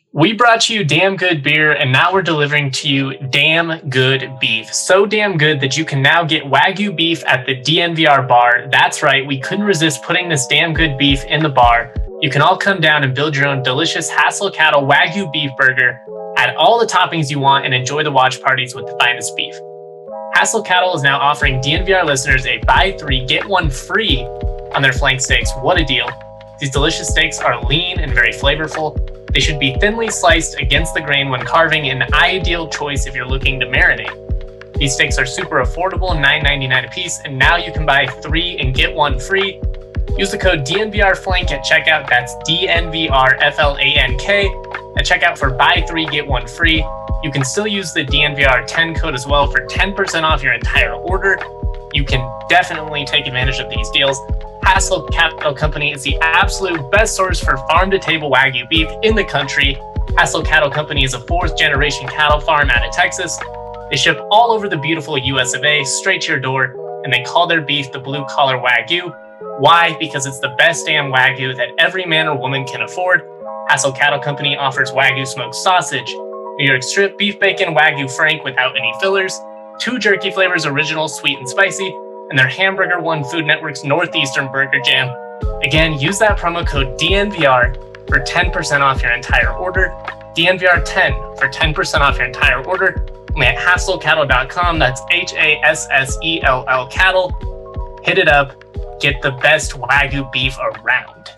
We brought you damn good beer, and now we're delivering to you damn good beef. So damn good that you can now get Wagyu beef at the DNVR bar. That's right, we couldn't resist putting this damn good beef in the bar. You can all come down and build your own delicious Hassel Cattle Wagyu beef burger, add all the toppings you want, and enjoy the watch parties with the finest beef. Hassel Cattle is now offering DNVR listeners a buy 3, get 1 free on their flank steaks. What a deal. These delicious steaks are lean and very flavorful. They should be thinly sliced against the grain when carving, an ideal choice if you're looking to marinate. These steaks are super affordable, $9.99 a piece, and now you can buy 3 and get 1 free. Use the code DNVRFlank at checkout. That's DNVRFLANK at checkout for buy 3, get 1 free. You can still use the DNVR10 code as well for 10% off your entire order. You can definitely take advantage of these deals. Hassel Cattle Company is the absolute best source for farm-to-table Wagyu beef in the country. Hassel Cattle Company is a 4th-generation cattle farm out of Texas. They ship all over the beautiful US of A, straight to your door, and they call their beef the blue-collar Wagyu. Why? Because it's the best damn Wagyu that every man or woman can afford. Hassel Cattle Company offers Wagyu smoked sausage, New York strip beef bacon Wagyu Frank without any fillers, 2 jerky flavors, original, sweet, and spicy, and their Hamburger One Food Network's Northeastern Burger Jam. Again, use that promo code DNVR for 10% off your entire order. DNVR10 for 10% off your entire order. Only at HasselCattle.com. That's HASSELL cattle. Hit it up. Get the best Wagyu beef around.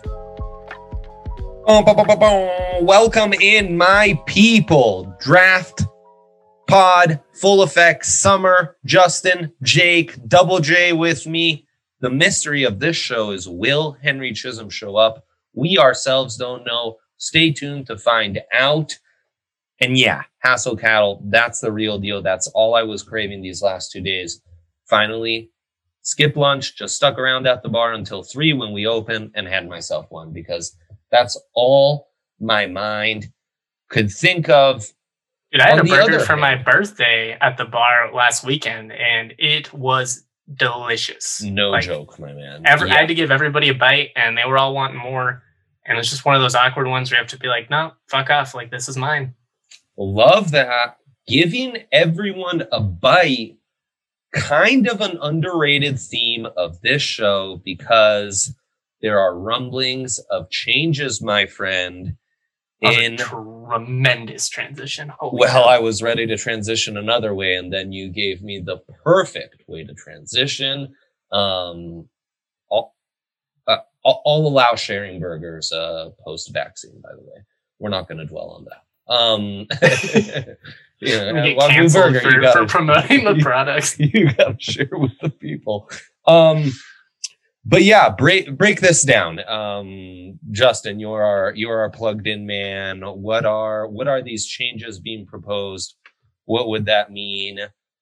Welcome in, my people. Draft Pod, full effect, summer, Justin, Jake, Double J with me. The mystery of this show is, will Henry Chisholm show up? We ourselves don't know. Stay tuned to find out. And yeah, Hassel Cattle, that's the real deal. That's all I was craving these last 2 days. Finally, skip lunch, just stuck around at the bar until 3 when we open and had myself one, because that's all my mind could think of. Dude, I had a burger for my birthday at the bar last weekend, and it was delicious. No joke, my man. I had to give everybody a bite, and they were all wanting more. And it's just one of those awkward ones where you have to be like, no, fuck off. Like, this is mine. Love that. Giving everyone a bite, kind of an underrated theme of this show, because there are rumblings of changes, my friend. In tremendous transition. I was ready to transition another way, and then you gave me the perfect way to transition. I'll allow sharing burgers post-vaccine, by the way. We're not going to dwell on that. Get canceled for promoting the products. You got to share with the people. But yeah, break this down. Justin, you're our plugged in man. What are these changes being proposed? What would that mean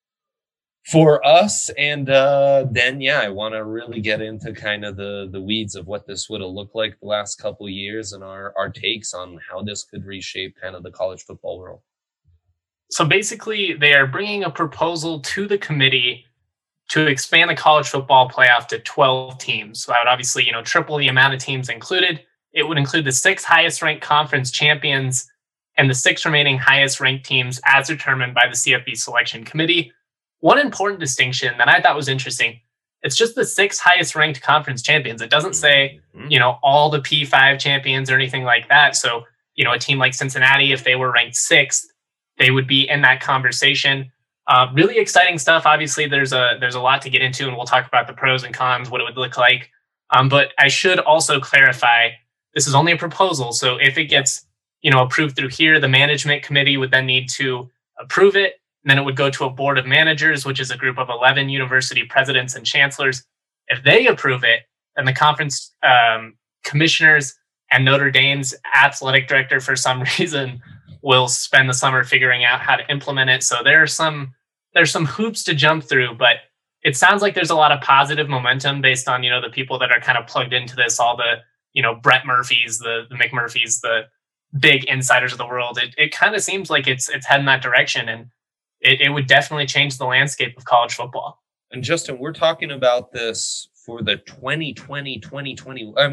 for us? And then I want to really get into kind of the weeds of what this would have looked like the last couple of years, and our takes on how this could reshape kind of the college football world. So basically, they are bringing a proposal to the committee to expand the college football playoff to 12 teams. So that would obviously, triple the amount of teams included. It would include the 6 highest ranked conference champions and the 6 remaining highest ranked teams as determined by the CFB selection committee. One important distinction that I thought was interesting, it's just the 6 highest ranked conference champions. It doesn't say, all the P5 champions or anything like that. So, a team like Cincinnati, if they were ranked 6th, they would be in that conversation. Really exciting stuff. Obviously, there's a lot to get into, and we'll talk about the pros and cons, what it would look like. But I should also clarify, this is only a proposal. So if it gets, approved through here, the management committee would then need to approve it. And then it would go to a board of managers, which is a group of 11 university presidents and chancellors. If they approve it, then the conference commissioners and Notre Dame's athletic director, for some reason, will spend the summer figuring out how to implement it. So there's some hoops to jump through, but it sounds like there's a lot of positive momentum based on, the people that are kind of plugged into this, all the, Brett Murphys, the McMurphys, the big insiders of the world. It kind of seems like it's heading that direction, and it would definitely change the landscape of college football. And Justin, we're talking about this for the 2020, 2020. I mean,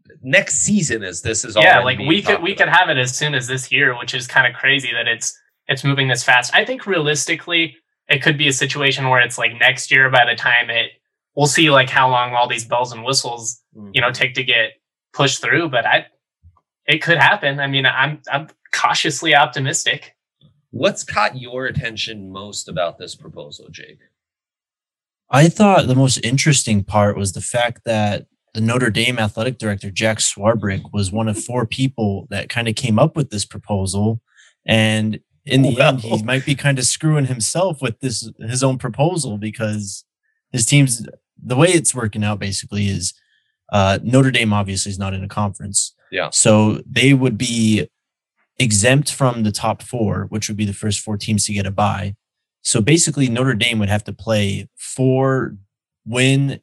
next season as this is all. Yeah, like we could have it as soon as this year, which is kind of crazy that it's moving this fast. I think realistically, it could be a situation where it's like next year by the time we'll see like how long all these bells and whistles, take to get pushed through. But it could happen. I mean, I'm cautiously optimistic. What's caught your attention most about this proposal, Jake? I thought the most interesting part was the fact that the Notre Dame athletic director, Jack Swarbrick, was one of 4 people that kind of came up with this proposal. And in the end, he might be kind of screwing himself with his own proposal, because his team's, the way it's working out basically is Notre Dame obviously is not in a conference. Yeah. So they would be exempt from the top 4, which would be the first 4 teams to get a bye. So basically Notre Dame would have to play 4 win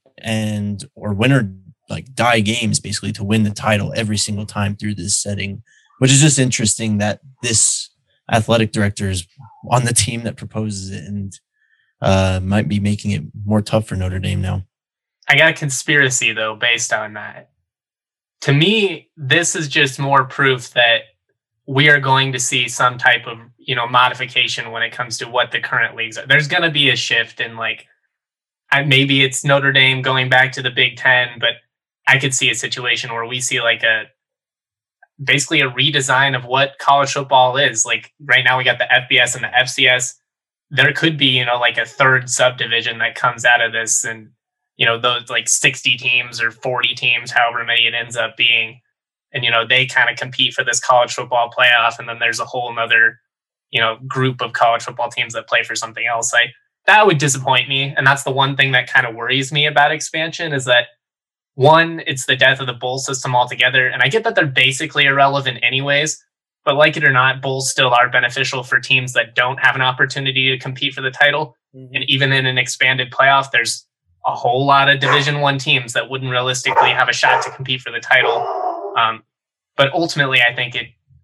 or like die games basically to win the title every single time through this setting, which is just interesting that this athletic director is on the team that proposes it and might be making it more tough for Notre Dame now. I got a conspiracy though, based on that. To me, this is just more proof that we are going to see some type of, modification when it comes to what the current leagues are. There's going to be a shift in maybe it's Notre Dame going back to the Big Ten, but I could see a situation where we see basically a redesign of what college football is. Like right now we got the FBS and the FCS. There could be, a third subdivision that comes out of this, and, those 60 teams or 40 teams, however many it ends up being. And, they kind of compete for this college football playoff. And then there's a whole nother, group of college football teams that play for something else. That would disappoint me. And that's the one thing that kind of worries me about expansion, is that, one, it's the death of the bowl system altogether. And I get that they're basically irrelevant anyways, but like it or not, bowls still are beneficial for teams that don't have an opportunity to compete for the title. Mm-hmm. And even in an expanded playoff, there's a whole lot of Division I teams that wouldn't realistically have a shot to compete for the title. But ultimately, I think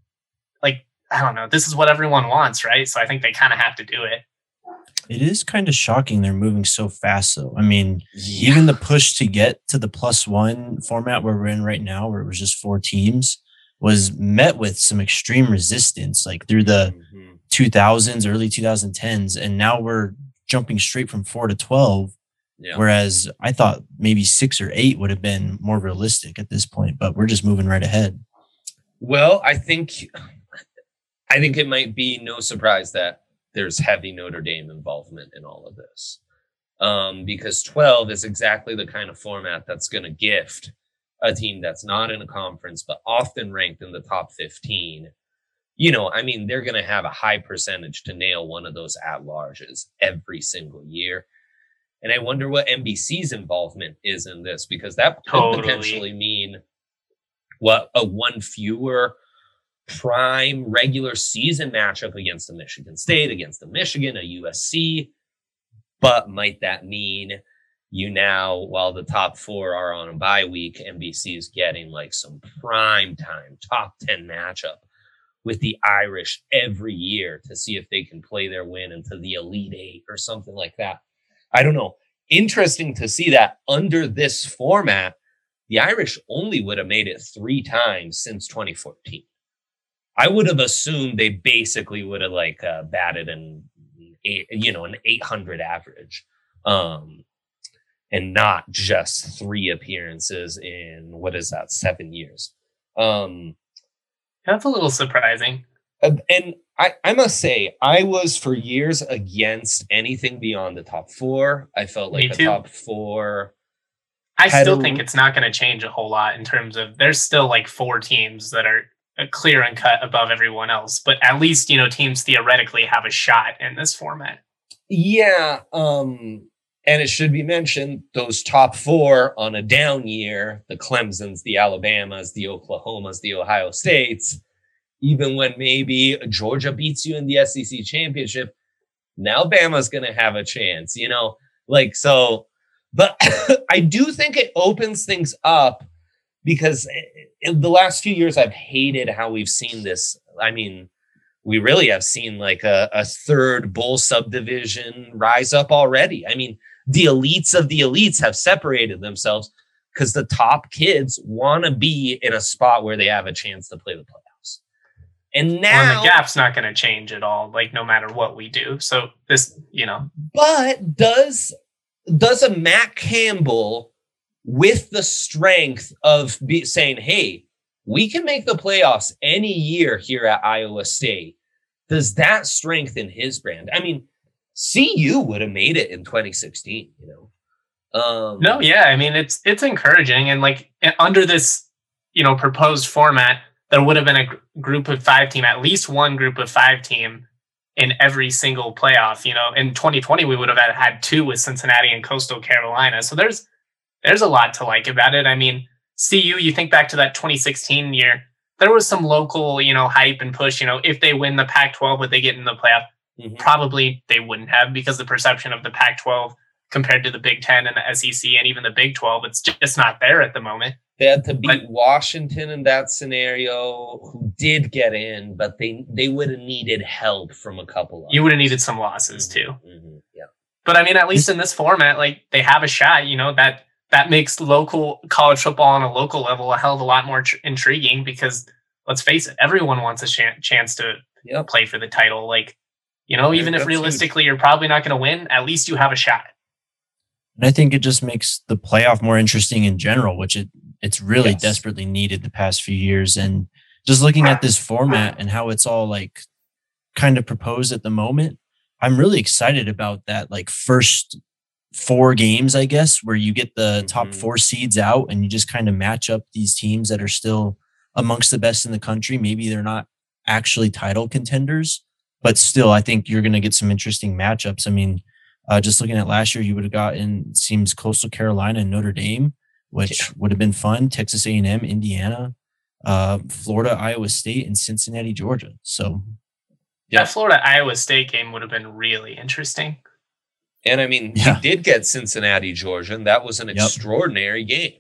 I don't know, this is what everyone wants, right? So I think they kind of have to do it. It is kind of shocking they're moving so fast, though. I mean, even the push to get to the +1 format where we're in right now, where it was just 4 teams, was met with some extreme resistance, through the 2000s, early 2010s. And now we're jumping straight from 4 to 12. Yeah. Whereas I thought maybe 6 or 8 would have been more realistic at this point, but we're just moving right ahead. Well, I think it might be no surprise that there's heavy Notre Dame involvement in all of this, because 12 is exactly the kind of format that's going to gift a team that's not in a conference, but often ranked in the top 15. They're going to have a high percentage to nail one of those at-larges every single year. And I wonder what NBC's involvement is in this, because that could potentially mean a 1 fewer prime regular season matchup against a Michigan State, against a Michigan, a USC. But might that mean while the top 4 are on a bye week, NBC is getting some prime time top 10 matchup with the Irish every year to see if they can play their win into the Elite 8 or something like that. I don't know. Interesting to see that under this format, the Irish only would have made it 3 times since 2014. I would have assumed they basically would have batted an 800 average, and not just 3 appearances in 7 years. That's a little surprising. And I must say, I was for years against anything beyond the top 4. I felt like a top 4. I still think it's not going to change a whole lot in terms of there's still 4 teams that are clear and cut above everyone else. But at least, teams theoretically have a shot in this format. Yeah. And it should be mentioned, those top 4 on a down year, the Clemsons, the Alabamas, the Oklahomas, the Ohio States, even when maybe Georgia beats you in the SEC championship, now Bama's going to have a chance, so, but I do think it opens things up, because in the last few years, I've hated how we've seen this. I mean, we really have seen a third bowl subdivision rise up already. I mean, the elites of the elites have separated themselves. because the top kids want to be in a spot where they have a chance to play the playoffs. And now the gap's not going to change at all, like no matter what we do. So this, But does a Matt Campbell with the strength of saying, hey, we can make the playoffs any year here at Iowa State, does that strengthen his brand? I mean, CU would have made it in 2016, No, yeah. I mean, it's encouraging. And like under this, proposed format, there would have been a group of 5 team, at least one group of 5 team in every single playoff. In 2020, we would have had 2 with Cincinnati and Coastal Carolina. So there's a lot to like about it. I mean, CU, you think back to that 2016 year, there was some local, hype and push, if they win the Pac-12, would they get in the playoff? Mm-hmm. Probably they wouldn't have, because the perception of the Pac-12 compared to the Big Ten and the SEC and even the Big 12, it's just not there at the moment. They had to beat Washington in that scenario, who did get in, but they would have needed help from a couple of You would have needed some losses too. Mm-hmm. Yeah. But I mean, at least in this format, like they have a shot, that makes local college football on a local level a hell of a lot more intriguing, because let's face it, everyone wants a chance to play for the title. Like, even if realistically you're probably not going to win, at least you have a shot. And I think it just makes the playoff more interesting in general, which it's really desperately needed the past few years. And just looking at this format and how it's all like kind of proposed at the moment, I'm really excited about that. Like first 4 games, I guess, where you get the top 4 seeds out and you just kind of match up these teams that are still amongst the best in the country. Maybe they're not actually title contenders, but still, I think you're going to get some interesting matchups. I mean, just looking at last year, you would have gotten, it seems, Coastal Carolina and Notre Dame, which would have been fun. Texas A&M, Indiana, Florida, Iowa State, and Cincinnati, Georgia. So, that Florida Iowa State game would have been really interesting. And I mean, we did get Cincinnati, Georgia, and that was an extraordinary game.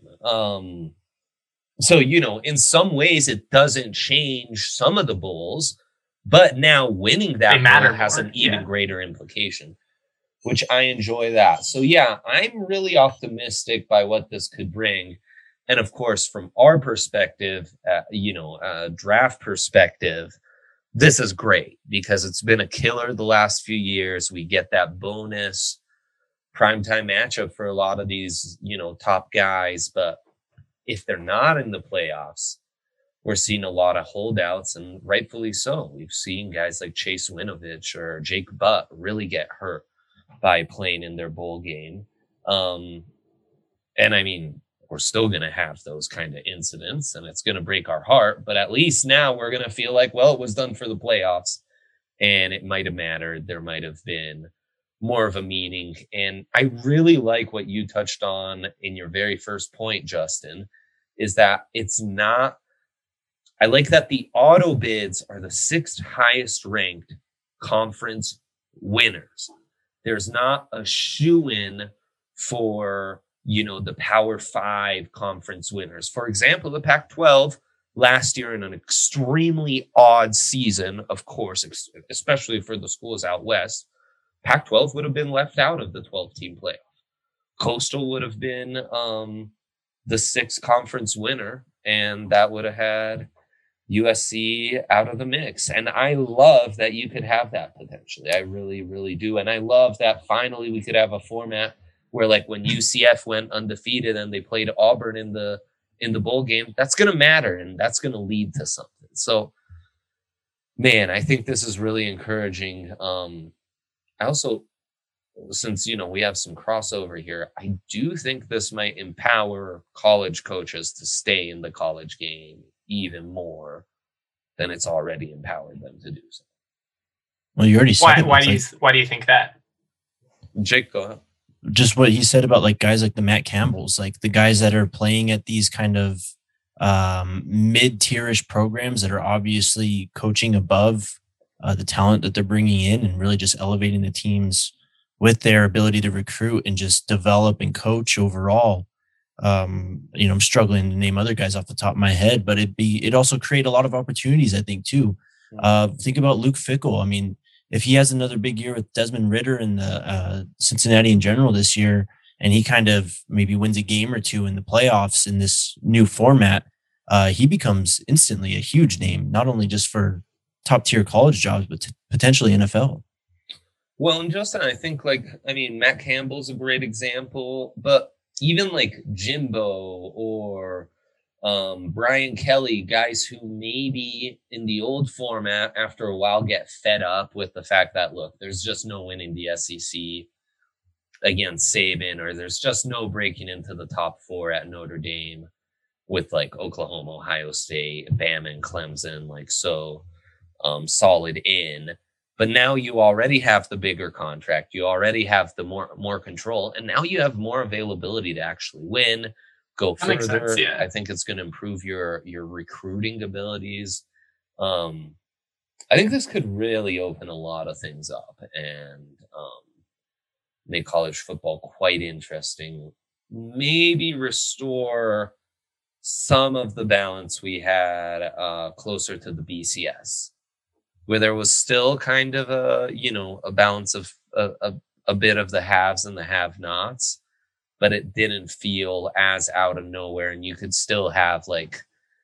So, in some ways, it doesn't change some of the bowls, but now winning that bowl has an even greater implication, which I enjoy that. So, I'm really optimistic by what this could bring. And of course, from our perspective, draft perspective, this is great because it's been a killer the last few years. We get that bonus primetime matchup for a lot of these, top guys. But if they're not in the playoffs, we're seeing a lot of holdouts, and rightfully so. We've seen guys like Chase Winovich or Jake Butt really get hurt by playing in their bowl game. And I mean, we're still going to have those kind of incidents, and it's going to break our heart. But at least now we're going to feel like, well, it was done for the playoffs, and it might have mattered. There might have been more of a meaning. And I really like what you touched on in your very first point, Justin, is that it's not, I like that the auto bids are the 6th highest ranked conference winners. There's not a shoe-in for, the Power 5 conference winners. For example, the Pac-12 last year in an extremely odd season, of course, especially for the schools out west, Pac-12 would have been left out of the 12-team playoff. Coastal would have been the 6th conference winner, and that would have had USC out of the mix. And I love that you could have that potentially. I really, really do. And I love that finally we could have a format where, like, when UCF went undefeated and they played Auburn in the bowl game, that's going to matter, and that's going to lead to something. So, man, I think this is really encouraging. I also, since, we have some crossover here, I do think this might empower college coaches to stay in the college game even more than it's already empowered them to do so. Well, you already said why do you think that? Jake, go ahead. Just what he said about like guys like the Matt Campbells, like the guys that are playing at these kind of mid-tierish programs that are obviously coaching above the talent that they're bringing in and really just elevating the teams with their ability to recruit and just develop and coach overall. I'm struggling to name other guys off the top of my head, but it also create a lot of opportunities, I think, too. Think about Luke Fickell. I mean, if he has another big year with Desmond Ridder and the Cincinnati in general this year, and he kind of maybe wins a game or two in the playoffs in this new format, he becomes instantly a huge name, not only just for top tier college jobs, but potentially NFL. Well, and Justin, I think Matt Campbell's a great example, but even like Jimbo or Brian Kelly, guys who maybe in the old format after a while get fed up with the fact that, look, there's just no winning the SEC against Saban, or there's just no breaking into the top 4 at Notre Dame with like Oklahoma, Ohio State, Bama, and Clemson, like so solid in. But now you already have the bigger contract. You already have the more control, and now you have more availability to actually win, go further. Sense, yeah. I think it's going to improve your recruiting abilities. I think this could really open a lot of things up and make college football quite interesting. Maybe restore some of the balance we had closer to the BCS, where there was still kind of a balance of a bit of the haves and the have-nots, but it didn't feel as out of nowhere. And you could still have like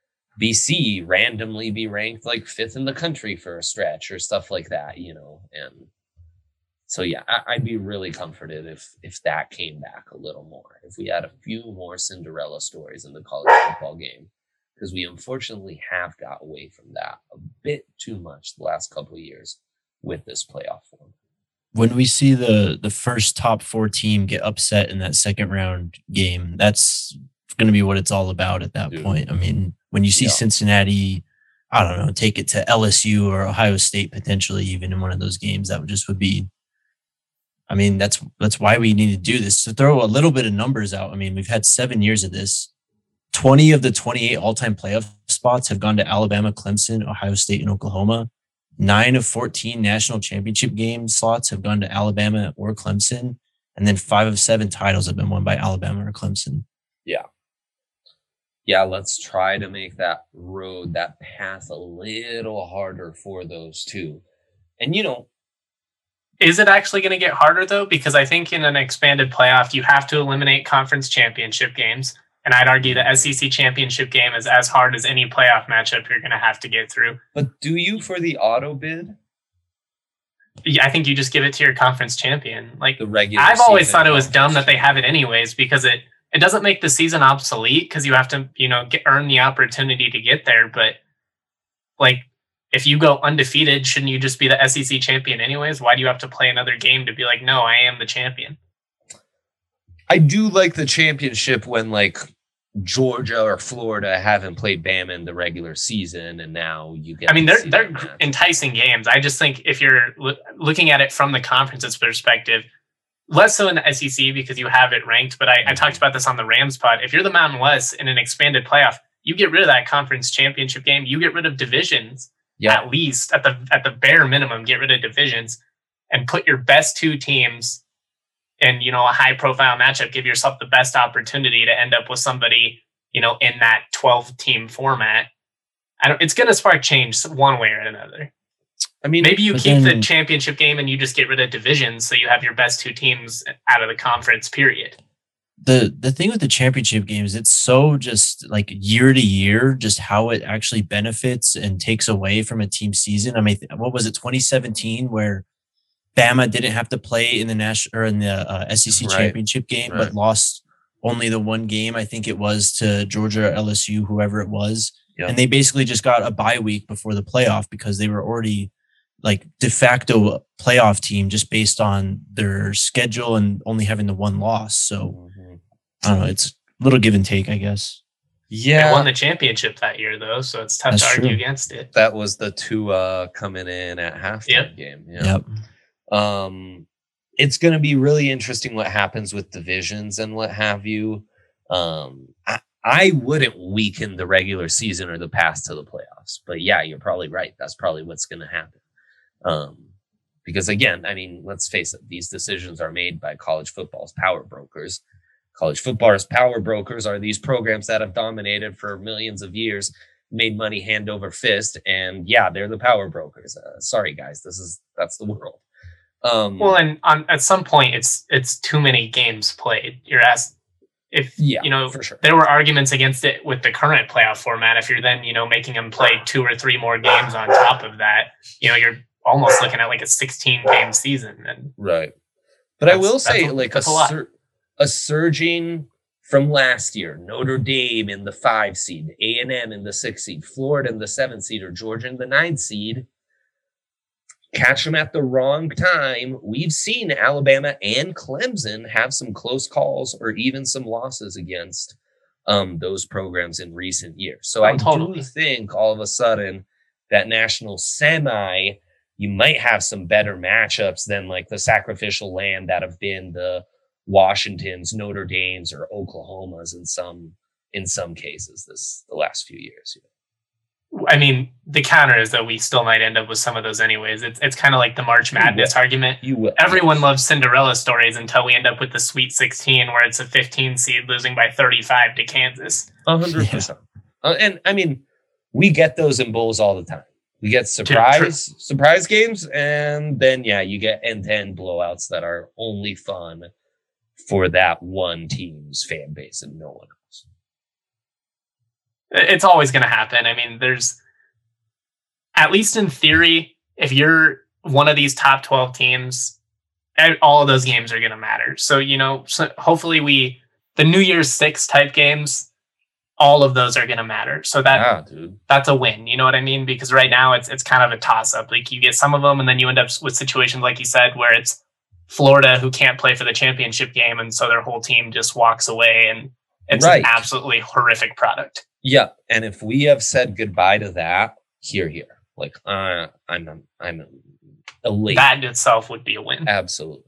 BC randomly be ranked like 5th in the country for a stretch or stuff like that, and so, yeah, I'd be really comforted if that came back a little more, if we had a few more Cinderella stories in the college football game, because we unfortunately have got away from that a bit too much the last couple of years with this playoff form. When we see the first top 4 team get upset in that second round game, that's going to be what it's all about at that point. I mean, when you see Cincinnati, I don't know, take it to LSU or Ohio State potentially even in one of those games, that would be. I mean, that's why we need to do this, to throw a little bit of numbers out. I mean, we've had 7 years of this. 20 of the 28 all-time playoff spots have gone to Alabama, Clemson, Ohio State, and Oklahoma. 9 of 14 national championship game slots have gone to Alabama or Clemson. And then 5 of 7 titles have been won by Alabama or Clemson. Yeah. Yeah, let's try to make that path a little harder for those two. And, is it actually going to get harder, though? Because I think in an expanded playoff, you have to eliminate conference championship games. And I'd argue the SEC championship game is as hard as any playoff matchup you're going to have to get through. But do you for the auto bid? Yeah, I think you just give it to your conference champion. Like, the regular I've always thought it was dumb that they have it anyways, because it doesn't make the season obsolete, because you have to, earn the opportunity to get there. But like, if you go undefeated, shouldn't you just be the SEC champion anyways? Why do you have to play another game to be like, no, I am the champion? I do like the championship when like Georgia or Florida haven't played Bama in the regular season, and now you get. I mean, they're enticing games. I just think if you're looking at it from the conference's perspective, less so in the SEC because you have it ranked. But I talked about this on the Rams pod. If you're the Mountain West in an expanded playoff, you get rid of that conference championship game. You get rid of divisions. Yeah. At least at the bare minimum, get rid of divisions and put your best 2 teams in, a high profile matchup. Give yourself the best opportunity to end up with somebody, in that 12 team format. It's going to spark change one way or another. I mean, maybe you keep the championship game and you just get rid of divisions, so you have your best 2 teams out of the conference, period. The thing with the championship games, it's so just like year to year, just how it actually benefits and takes away from a team season. I mean, what was it, 2017, where Bama didn't have to play in the SEC championship game, but lost only the one game. I think it was to Georgia, LSU, whoever it was, and they basically just got a bye week before the playoff because they were already like de facto playoff team just based on their schedule and only having the one loss. So I don't know. It's a little give and take, I guess. Yeah. They won the championship that year though. So it's tough to argue against it. That was the 2 coming in at halftime game. Yeah. Yep. It's going to be really interesting what happens with divisions and what have you. I wouldn't weaken the regular season or the path to the playoffs, but yeah, you're probably right. That's probably what's going to happen. Because again, I mean, let's face it, these decisions are made by college football's power brokers. College football's power brokers are these programs that have dominated for millions of years, made money hand over fist, and yeah, they're the power brokers. Sorry, guys, that's the world. Well, and at some point, it's too many games played. You're asked if for sure. There were arguments against it with the current playoff format. If you're then making them play 2 or 3 more games on top of that, you're almost looking at like a 16-game season. And right. But I will say, like a surging from last year, Notre Dame in the 5 seed, A&M in the 6 seed, Florida in the 7 seed, or Georgia in the 9 seed. Catch them at the wrong time. We've seen Alabama and Clemson have some close calls or even some losses against those programs in recent years. So I do think all of a sudden that national semi, you might have some better matchups than like the sacrificial lamb that have been the Washingtons, Notre Dames, or Oklahomas in some cases the last few years. I mean, the counter is that we still might end up with some of those anyways. It's kind of like the March Madness argument. Everyone loves Cinderella stories until we end up with the Sweet 16 where it's a 15 seed losing by 35 to Kansas. 100%. And I mean, we get those in bowls all the time. We get surprise games, and then you get end-to-end blowouts that are only fun for that one team's fan base and no one else. It's always going to happen. I mean, there's, at least in theory, if you're one of these top 12 teams, all of those games are going to matter. So, hopefully the New Year's 6 type games, all of those are going to matter. So that's a win. You know what I mean? Because right now it's kind of a toss up. Like you get some of them and then you end up with situations like you said, where it's Florida who can't play for the championship game. And so their whole team just walks away and it's an absolutely horrific product. Yeah. And if we have said goodbye to that, here, like I'm elated. That in itself would be a win. Absolutely.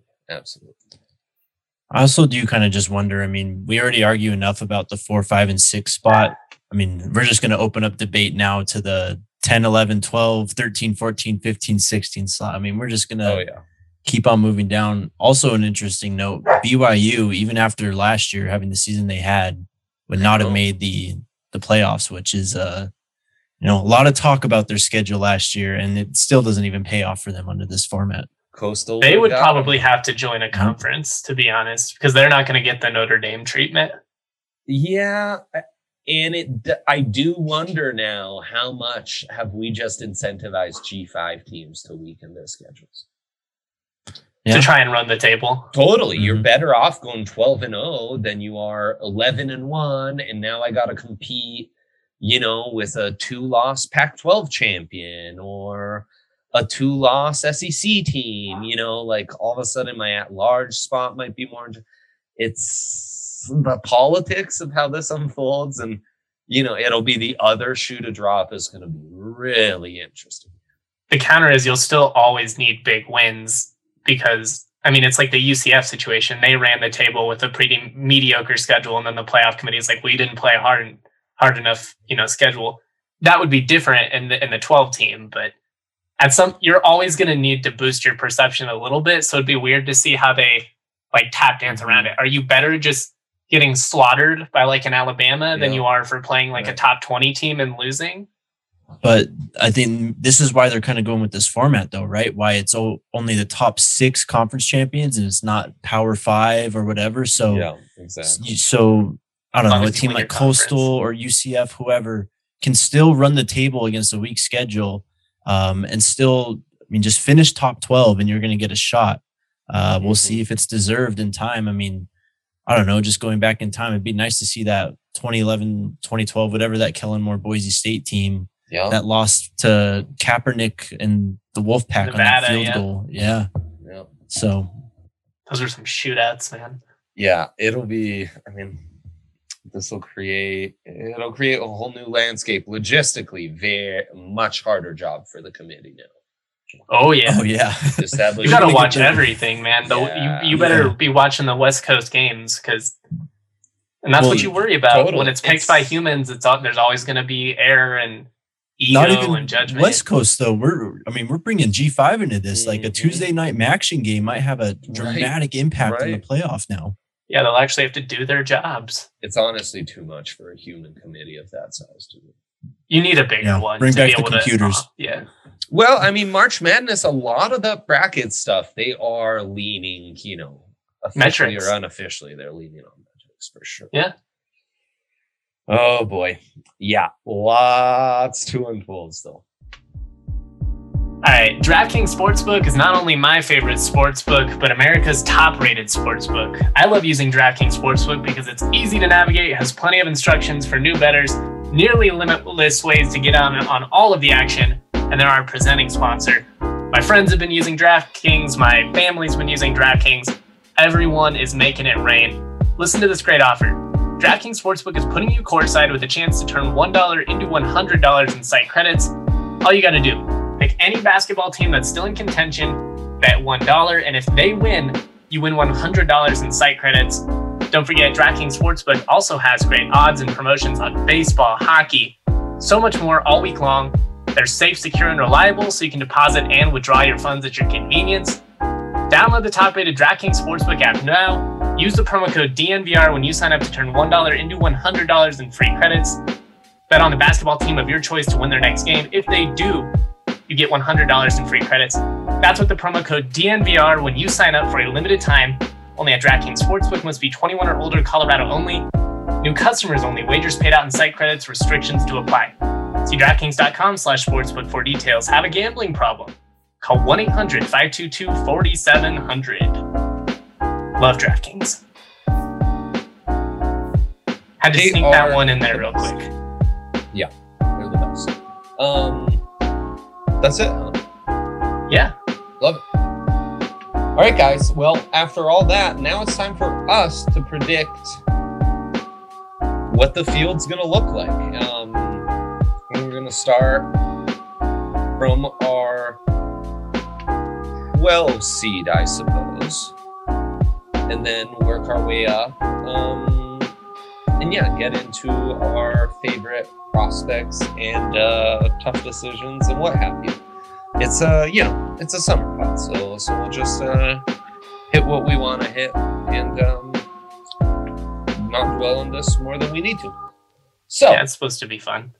I also do kind of just wonder, I mean, we already argue enough about the 4, 5, and 6 spot. I mean, we're just going to open up debate now to the 10, 11, 12, 13, 14, 15, 16 slot. I mean, we're just going to keep on moving down. Also an interesting note, BYU, even after last year having the season they had, would not have made the playoffs, which is a lot of talk about their schedule last year, and it still doesn't even pay off for them under this format. Coastal. They would probably have to join a conference, to be honest, because they're not going to get the Notre Dame treatment. Yeah. And I do wonder now, how much have we just incentivized G5 teams to weaken their schedules? To try and run the table. Totally. Mm-hmm. You're better off going 12-0 than you are 11-1. And now I got to compete, with a 2-loss Pac-12 champion or a 2-loss SEC team, like all of a sudden my at-large spot might be more. It's the politics of how this unfolds. And, it'll be the other shoe to drop is going to be really interesting. The counter is you'll still always need big wins. Because, I mean, it's like the UCF situation. They ran the table with a pretty mediocre schedule, and then the playoff committee is like, we didn't play hard enough, schedule. That would be different in the 12 team, but you're always going to need to boost your perception a little bit. So it'd be weird to see how they like tap dance around it. Are you better just getting slaughtered by like an Alabama than you are for playing like a top 20 team and losing? But I think this is why they're kind of going with this format, though, right? Why it's only the top 6 conference champions and it's not Power 5 or whatever. So, exactly. So I don't know, a team like Coastal or UCF, whoever, can still run the table against a weak schedule and still, just finish top 12 and you're going to get a shot. We'll see if it's deserved in time. I mean, I don't know, just going back in time, it'd be nice to see that 2011, 2012, whatever, that Kellen Moore Boise State team. That lost to Kaepernick and the Wolfpack on that field goal. Yeah. So those are some shootouts, man. Yeah, it'll be. This will create a whole new landscape logistically. Very much harder job for the committee now. Oh yeah. You got to watch everything, man. You better be watching the West Coast games and that's what you worry about. Totally. When it's picked by humans. There's always going to be error and ego not even and judgment. West Coast though, we're bringing G5 into this. Like a Tuesday night action game might have a dramatic impact on the playoff now. Yeah, they'll actually have to do their jobs. It's honestly too much for a human committee of that size to do. You need a bigger one. Bring back the computers. Well, I mean, March Madness, a lot of the bracket stuff, they are leaning, officially Metrics. or unofficially, they're leaning on metrics for sure. Yeah. Oh boy. Yeah. Lots to unfold still. All right, DraftKings Sportsbook is not only my favorite sportsbook, but America's top-rated sportsbook. I love using DraftKings Sportsbook because it's easy to navigate, has plenty of instructions for new bettors, nearly limitless ways to get on all of the action, and they're our presenting sponsor. My friends have been using DraftKings, my family's been using DraftKings. Everyone is making it rain. Listen to this great offer. DraftKings Sportsbook is putting you courtside with a chance to turn $1 into $100 in site credits. All you got to do, pick any basketball team that's still in contention, bet $1, and if they win, you win $100 in site credits. Don't forget, DraftKings Sportsbook also has great odds and promotions on baseball, hockey, so much more all week long. They're safe, secure, and reliable, so you can deposit and withdraw your funds at your convenience. Download the top-rated DraftKings Sportsbook app now. Use the promo code DNVR when you sign up to turn $1 into $100 in free credits. Bet on the basketball team of your choice to win their next game. If they do, you get $100 in free credits. That's with the promo code DNVR when you sign up for a limited time. Only at DraftKings Sportsbook. Must be 21 or older, Colorado only. New customers only. Wagers paid out in site credits. Restrictions to apply. See DraftKings.com/sportsbook for details. Have a gambling problem? Call 1-800-522-4700. Love DraftKings. Had to sneak that one in there real quick. Yeah, they're the best. That's it, huh? Yeah. Love it. All right, guys. Well, after all that, now it's time for us to predict what the field's going to look like. We're going to start from our 12 seed, I suppose, and then work our way up. And yeah, get into our favorite prospects and tough decisions and what have you. It's it's a summer pod, so we'll just hit what we want to hit and not dwell on this more than we need to. So yeah, it's supposed to be fun.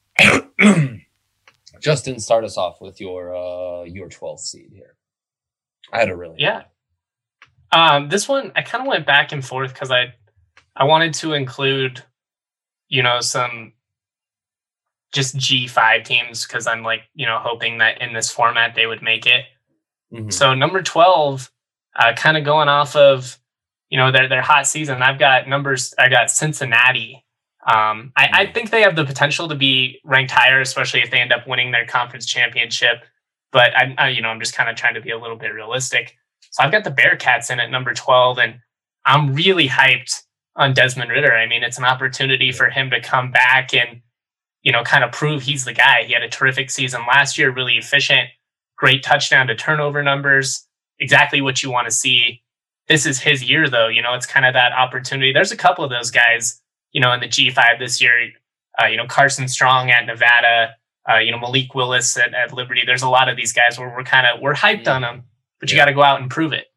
Justin, start us off with your 12th seed here. I had a really this one I kind of went back and forth because I wanted to include, some just G5 teams because I'm hoping that in this format they would make it. Mm-hmm. So number 12, kind of going off of, their hot season. I got Cincinnati. I think they have the potential to be ranked higher, especially if they end up winning their conference championship. But I'm just kind of trying to be a little bit realistic. So I've got the Bearcats in at number 12, and I'm really hyped on Desmond Ridder. I mean, it's an opportunity for him to come back and, kind of prove he's the guy. He had a terrific season last year, really efficient, great touchdown to turnover numbers, exactly what you want to see. This is his year, though. It's kind of that opportunity. There's a couple of those guys, in the G5 this year, Carson Strong at Nevada, Malik Willis at Liberty. There's a lot of these guys where we're hyped on them, but you got to go out and prove it.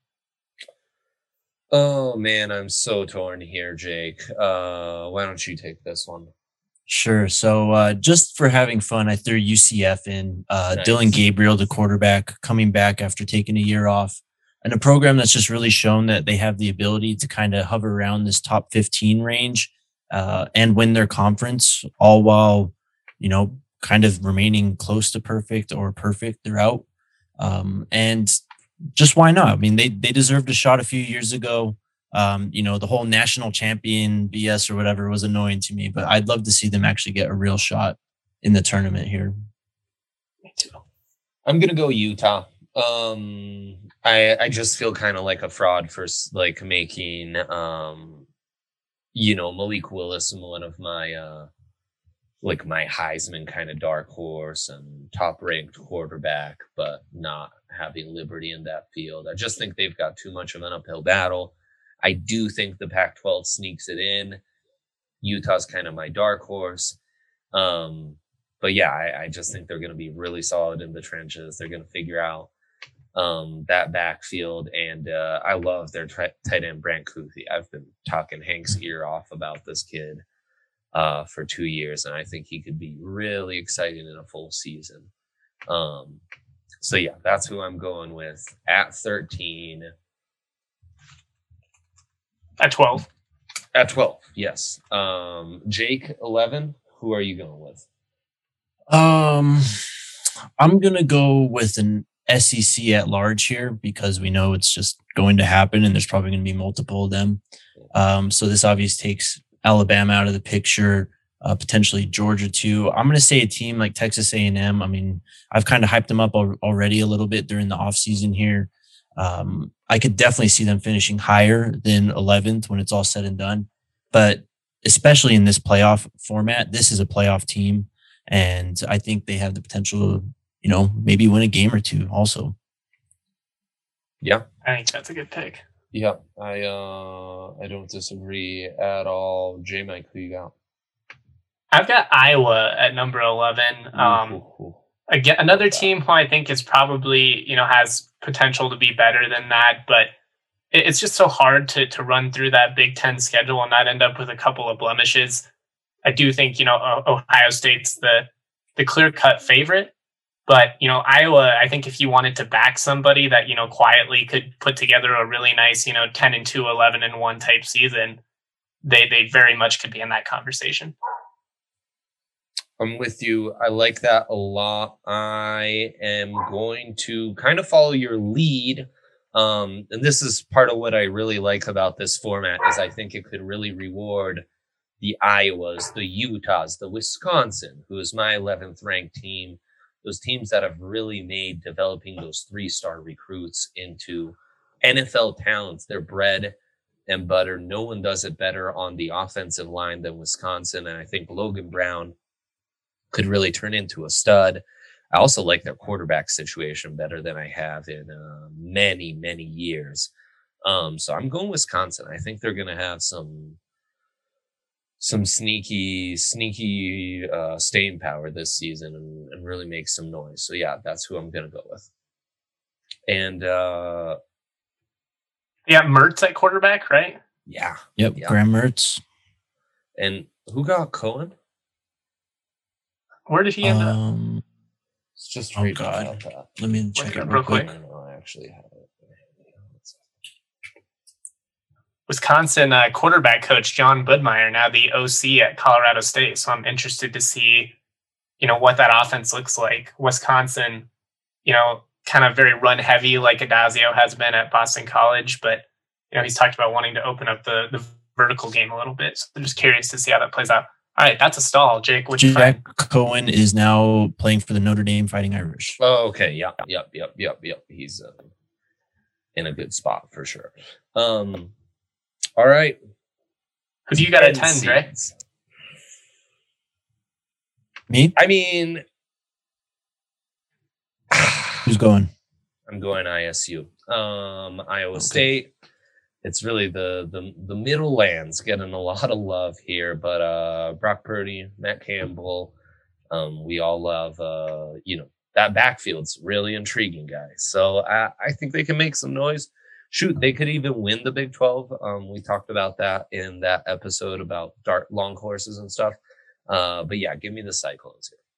Oh man, I'm so torn here, Jake. Why don't you take this one? Sure. So just for having fun, I threw UCF in. Nice. Dylan Gabriel, the quarterback, coming back after taking a year off. And a program that's just really shown that they have the ability to kind of hover around this top 15 range and win their conference, all while, kind of remaining close to perfect or perfect throughout. And just why not? I mean, they deserved a shot a few years ago. The whole national champion BS or whatever was annoying to me, but I'd love to see them actually get a real shot in the tournament here. Me too. I'm going to go Utah. I just feel kind of like a fraud for making, Malik Willis one of my, my Heisman kind of dark horse and top ranked quarterback, but not having Liberty in that field. I just think they've got too much of an uphill battle. I do think the Pac-12 sneaks it in. Utah's kind of my dark horse. But yeah, I just think they're going to be really solid in the trenches. They're going to figure out that backfield. And I love their tight end, Brant Kuithe. I've been talking Hank's ear off about this kid for 2 years, and I think he could be really exciting in a full season. So yeah, that's who I'm going with at 13. At 12. At 12, yes. Jake, 11. Who are you going with? I'm gonna go with an SEC at large here because we know it's just going to happen, and there's probably going to be multiple of them. So this obviously takes Alabama out of the picture, potentially Georgia too. I'm going to say a team like Texas A&M. I mean, I've kind of hyped them up already a little bit during the offseason here. I could definitely see them finishing higher than 11th when it's all said and done. But especially in this playoff format, this is a playoff team. And I think they have the potential to, maybe win a game or two also. Yeah. I think that's a good pick. Yeah. I don't disagree at all. J-Mike, who you got? I've got Iowa at number 11. Again, another team who I think is probably, has potential to be better than that, but it's just so hard to run through that Big Ten schedule and not end up with a couple of blemishes. I do think, Ohio State's the clear-cut favorite, but, Iowa, I think if you wanted to back somebody that, quietly could put together a really nice, 10-2, 11-1 type season, they very much could be in that conversation. I'm with you. I like that a lot. I am going to kind of follow your lead. And this is part of what I really like about this format is I think it could really reward the Iowas, the Utahs, the Wisconsin, who is my 11th ranked team. Those teams that have really made developing those 3-star recruits into NFL talents. They're bread and butter. No one does it better on the offensive line than Wisconsin. And I think Logan Brown could really turn into a stud. I also like their quarterback situation better than I have in many, many years. So I'm going Wisconsin. I think they're going to have some sneaky staying power this season and really make some noise. So yeah, that's who I'm going to go with. And Mertz at quarterback, right? Yeah. Yep. Yeah. Graham Mertz. And who got Cohen? Where did he end up? It's just oh God. Let me check it real quick. I actually have it. Wisconsin quarterback coach John Budmeyer, now the OC at Colorado State. So I'm interested to see, what that offense looks like. Wisconsin, kind of very run heavy like Adazio has been at Boston College, but he's talked about wanting to open up the vertical game a little bit. So I'm just curious to see how that plays out. All right, that's a stall, Jake. What you Jack Cohen is now playing for the Notre Dame Fighting Irish. Oh, okay. Yep. He's in a good spot for sure. All right. Who do you got at 10, Dre? Me? I mean, who's going? I'm going ISU. Iowa State. It's really the middle lands getting a lot of love here, but Brock Purdy, Matt Campbell, we all love that backfield's really intriguing, guys. So I think they can make some noise. Shoot, they could even win the Big 12. We talked about that in that episode about long horses and stuff. But yeah, give me the Cyclones here.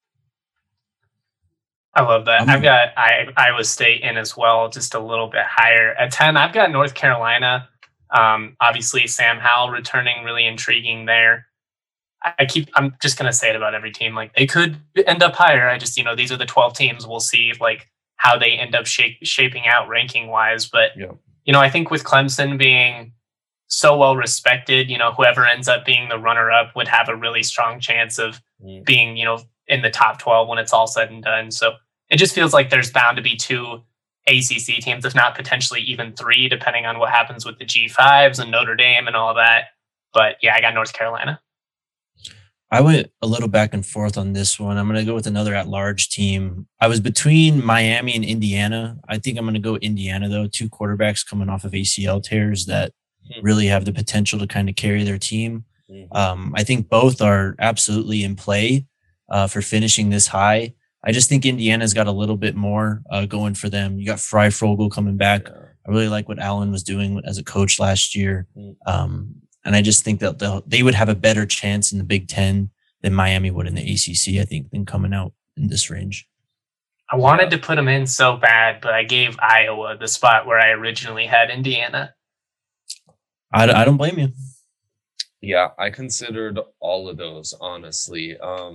I love that. I've got Iowa State in as well, just a little bit higher. At 10, I've got North Carolina. Obviously, Sam Howell returning, really intriguing there. I'm just going to say it about every team. Like, they could end up higher. I just, these are the 12 teams. We'll see, how they end up shaping out ranking-wise. But, I think with Clemson being so well respected, whoever ends up being the runner-up would have a really strong chance of being, in the top 12 when it's all said and done. So it just feels like there's bound to be 2 ACC teams, if not potentially even 3, depending on what happens with the G5s and Notre Dame and all that. But yeah, I got North Carolina. I went a little back and forth on this one. I'm going to go with another at-large team. I was between Miami and Indiana. I think I'm going to go Indiana, though. 2 quarterbacks coming off of ACL tears that really have the potential to kind of carry their team. I think both are absolutely in play for finishing this high. I just think Indiana's got a little bit more going for them. You got Freifogel coming back. I really like what Allen was doing as a coach last year. And I just think that they would have a better chance in the Big Ten than Miami would in the ACC, I think, than coming out in this range. I wanted to put them in so bad, but I gave Iowa the spot where I originally had Indiana. I don't blame you. Yeah, I considered all of those, honestly.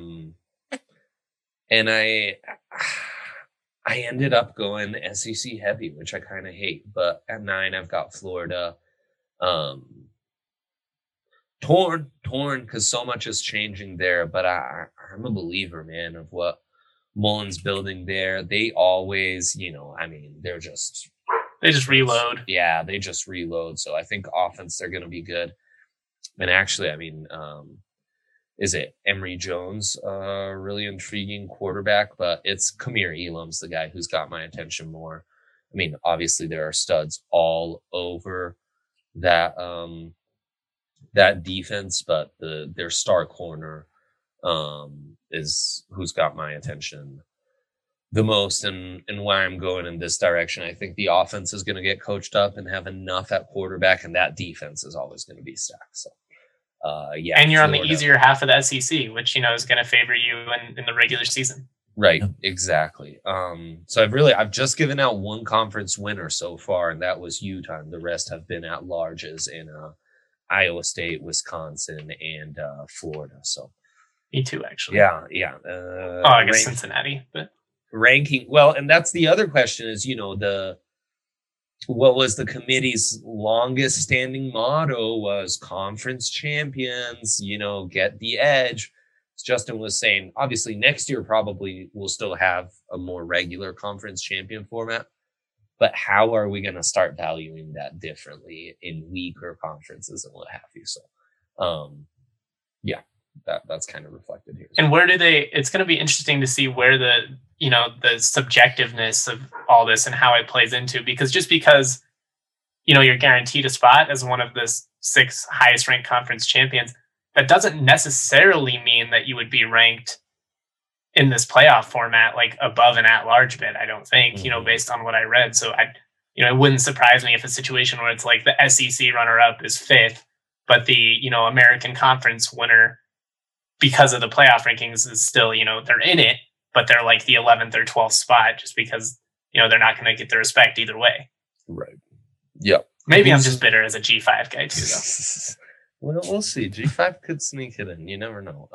And I ended up going SEC heavy, which I kind of hate. But at 9, I've got Florida. Torn, because so much is changing there. But I'm a believer, man, of what Mullen's building there. They always, they just reload. Yeah, they just reload. So I think offense, they're going to be good. And actually, is it Emory Jones, really intriguing quarterback? But it's Kamir Elam's the guy who's got my attention more. I mean, obviously there are studs all over that that defense, but their star corner is who's got my attention the most, and why I'm going in this direction. I think the offense is going to get coached up and have enough at quarterback, and that defense is always going to be stacked. So, yeah. And you're Florida on the easier half of the SEC, which is going to favor you in the regular season. Right, exactly. So I've just given out one conference winner so far, and that was Utah. And the rest have been at larges in Iowa State, Wisconsin, and Florida. So, me too, actually. Yeah. I guess Cincinnati, but. Ranking well, and that's the other question is, what was the committee's longest standing motto was conference champions, get the edge. As Justin was saying, obviously next year probably we'll still have a more regular conference champion format, but how are we going to start valuing that differently in weaker conferences and what have you? So yeah, that's kind of reflected here. And it's going to be interesting to see where the subjectiveness of all this and how it plays into, because you're guaranteed a spot as one of the 6 highest ranked conference champions, that doesn't necessarily mean that you would be ranked in this playoff format, like above an at-large bid, I don't think, based on what I read. So it wouldn't surprise me if a situation where it's like the SEC runner-up is 5th, but the, American Conference winner, because of the playoff rankings, is still, they're in it, but they're like the 11th or 12th spot just because, they're not going to get the respect either way. Right. Yep. Maybe I'm just bitter as a G5 guy too, though. Well, we'll see. G5 could sneak it in. You never know.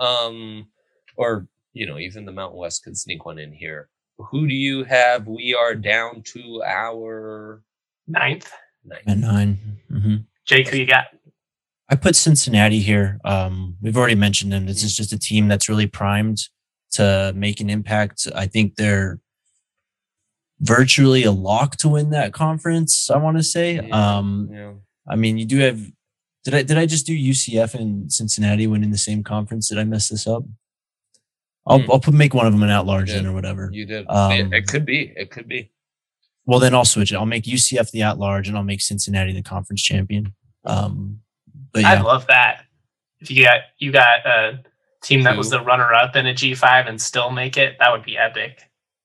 Or, even the Mountain West could sneak one in here. Who do you have? We are down to our 9th. At 9. Mm-hmm. Jake, who you got? I put Cincinnati here. We've already mentioned them. This is just a team that's really primed to make an impact. I think they're virtually a lock to win that conference, I want to say. Yeah. I mean, you do have... Did I just do UCF and Cincinnati winning the same conference? Did I mess this up? I'll make one of them an at-large then or whatever. You did. It could be. Well, then I'll switch it. I'll make UCF the at-large and I'll make Cincinnati the conference champion. But yeah. I'd love that. If you got a team that was the runner-up in a G5 and still make it, that would be epic.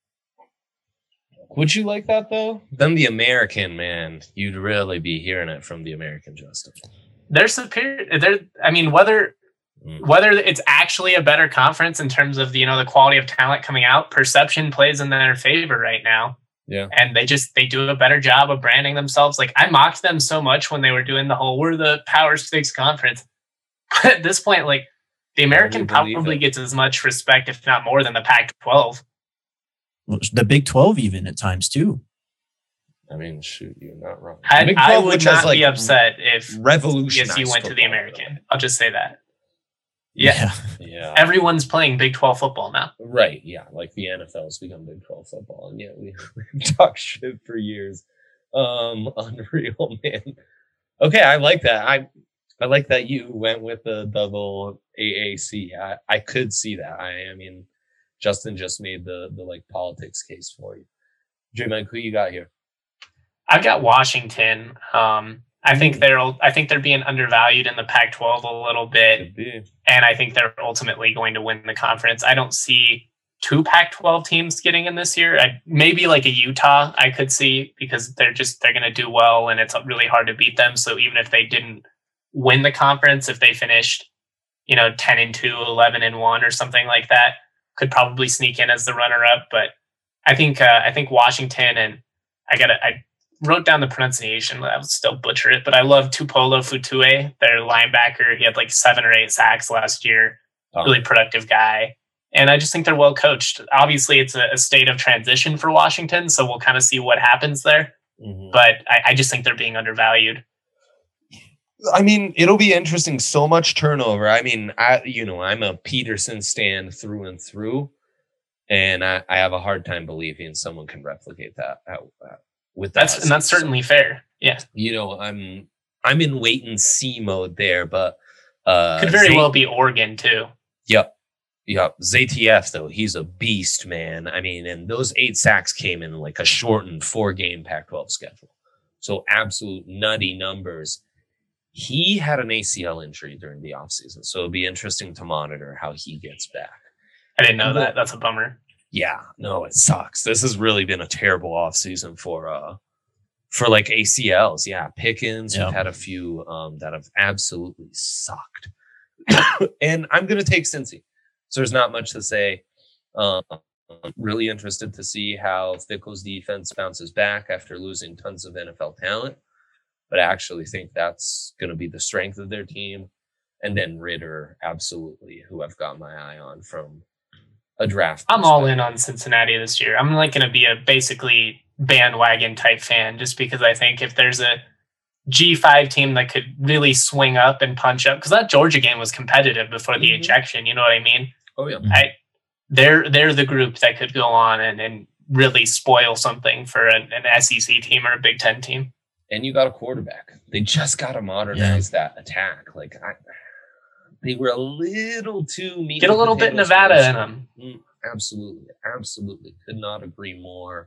Would you like that though? Then the American, man, you'd really be hearing it from the American, Justin. They're superior. Whether it's actually a better conference in terms of the quality of talent coming out, perception plays in their favor right now. Yeah. And they do a better job of branding themselves. Like, I mocked them so much when they were doing the whole, we're the Power 6 conference. But at this point, like, the American probably gets as much respect, if not more, than the Pac-12. Well, the Big 12 even at times too. I mean, shoot, you're not wrong. I would not be upset if CSU went to the American. Though. I'll just say that. Yeah. Everyone's playing Big 12 football now. Right. Yeah. Like the NFL's become Big 12 football. And yeah, we've talked shit for years. Unreal, man. Okay. I like that. I like that you went with the double AAC. I could see that. I mean, Justin just made the like politics case for you. J-Mike, who you got here? I've got Washington. I think they're being undervalued in the Pac-12 a little bit, and I think they're ultimately going to win the conference. I don't see 2 Pac-12 teams getting in this year. Maybe like a Utah I could see, because they're going to do well, and it's really hard to beat them. So even if they didn't win the conference, if they finished, 10-2, 11-1, or something like that, could probably sneak in as the runner-up. But I think Washington, and I wrote down the pronunciation. I would still butcher it, but I love Tupolo Futue, their linebacker. He had like 7 or 8 sacks last year. Really productive guy. And I just think they're well coached. Obviously, it's a state of transition for Washington, so we'll kind of see what happens there. Mm-hmm. But I just think they're being undervalued. I mean, it'll be interesting. So much turnover. I mean, I'm a Peterson stan through and through, and I have a hard time believing someone can replicate that with that. And that's certainly fair. Yeah. I'm in wait and see mode there, but could very well be Oregon too. Yep. ZTF though, he's a beast, man. I mean, and those 8 sacks came in like a shortened 4-game Pac-12 schedule, so absolute nutty numbers. He had an ACL injury during the offseason, so it'll be interesting to monitor how he gets back. I didn't know that. That's a bummer. Yeah, no, it sucks. This has really been a terrible offseason for like ACLs. Yeah, Pickens. We've had a few that have absolutely sucked. And I'm going to take Cincy. So there's not much to say. Really interested to see how Fickell's defense bounces back after losing tons of NFL talent. But I actually think that's going to be the strength of their team. And then Ritter, absolutely, who I've got my eye on from a draft. I'm all in on Cincinnati this year. I'm like going to be a basically bandwagon type fan, just because I think if there's a G5 team that could really swing up and punch up, because that Georgia game was competitive before the ejection, you know what I mean? Oh yeah. They're the group that could go on and really spoil something for an SEC team or a Big Ten team. And you got a quarterback. They just got to modernize that attack. Like they were a little too mean. Get a little bit Nevada in them. Absolutely. Could not agree more.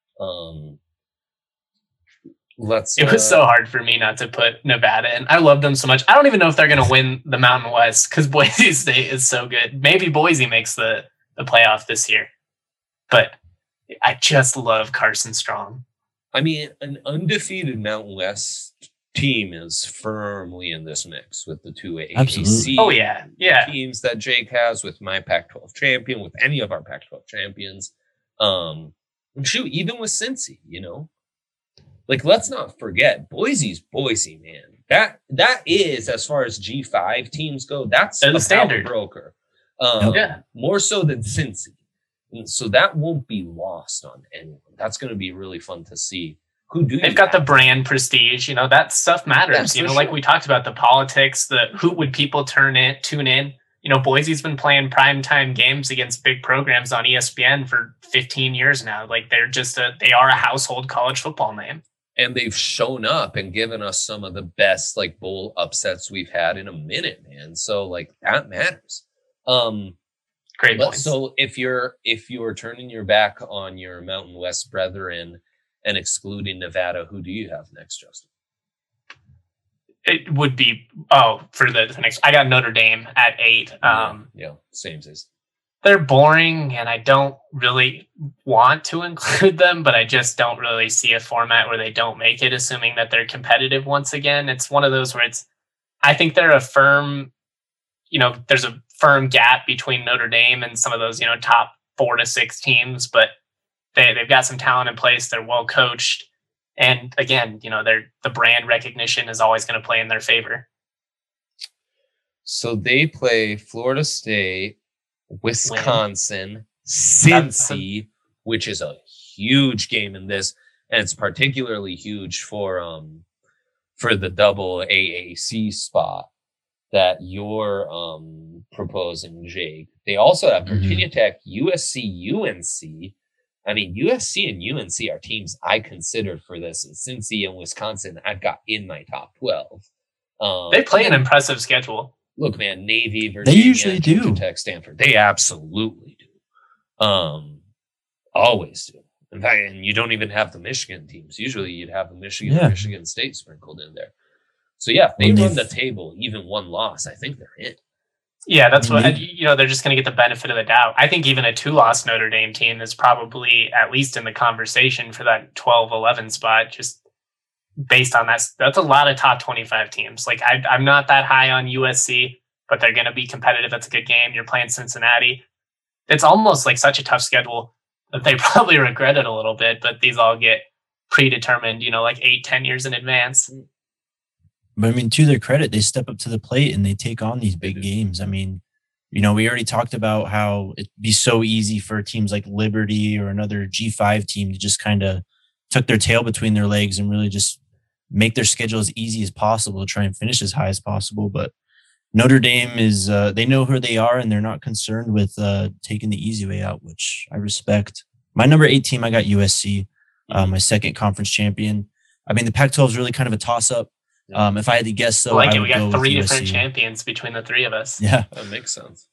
It was so hard for me not to put Nevada in. I love them so much. I don't even know if they're going to win the Mountain West because Boise State is so good. Maybe Boise makes the playoff this year, but I just love Carson Strong. I mean, an undefeated Mountain West team is firmly in this mix with the 2 AAC teams that Jake has, with my Pac-12 champion, with any of our Pac-12 champions. Shoot, even with Cincy, Like, let's not forget, Boise's Boise, man. That is, as far as G5 teams go, that's the standard broker. More so than Cincy. And so that won't be lost on anyone. That's going to be really fun to see. They've got the brand prestige, that stuff matters. Like we talked about, the politics, who would people tune in. Boise's been playing primetime games against big programs on ESPN for 15 years now. Like they are a household college football name. And they've shown up and given us some of the best like bowl upsets we've had in a minute, man. So like that matters. Great point. So if you're turning your back on your Mountain West brethren and excluding Nevada, who do you have next, Justin? It would be for the next. I got Notre Dame at 8. Same as. They're boring, and I don't really want to include them, but I just don't really see a format where they don't make it, assuming that they're competitive once again. It's one of those where I think they're a firm, there's a firm gap between Notre Dame and some of those, top 4 to 6 teams, but they've got some talent in place. They're well coached. And again, the brand recognition is always going to play in their favor. So they play Florida State, Wisconsin, Cincy, which is a huge game in this, and it's particularly huge for the double AAC spot that you're proposing, Jake. They also have Virginia Tech, USC, UNC. I mean, USC and UNC are teams I considered for this, and Cincy and Wisconsin I've got in my top 12. They play an impressive schedule. Look, man, Navy, Virginia, they usually do. Tech, Stanford. They absolutely do. Always do. In fact, and you don't even have the Michigan teams. Usually you'd have the Michigan State sprinkled in there. So yeah, if they run the table, even one loss, I think they're in. Yeah, that's what, they're just going to get the benefit of the doubt. I think even a 2-loss Notre Dame team is probably at least in the conversation for that 12-11 spot, just based on that. That's a lot of top 25 teams. Like I'm not that high on USC, but they're going to be competitive. That's a good game. You're playing Cincinnati. It's almost like such a tough schedule. that they probably regret it a little bit, but these all get predetermined, like 8-10 years in advance. But I mean, to their credit, they step up to the plate and they take on these big games. I mean, we already talked about how it'd be so easy for teams like Liberty or another G5 team to just kind of tuck their tail between their legs and really just make their schedule as easy as possible, try and finish as high as possible. But Notre Dame is, they know who they are and they're not concerned with taking the easy way out, which I respect. My number 8 team, I got USC, my second conference champion. I mean, the Pac-12 is really kind of a toss-up. If I had to guess, though, I we got 3 different champions between the 3 of us. Yeah, that makes sense.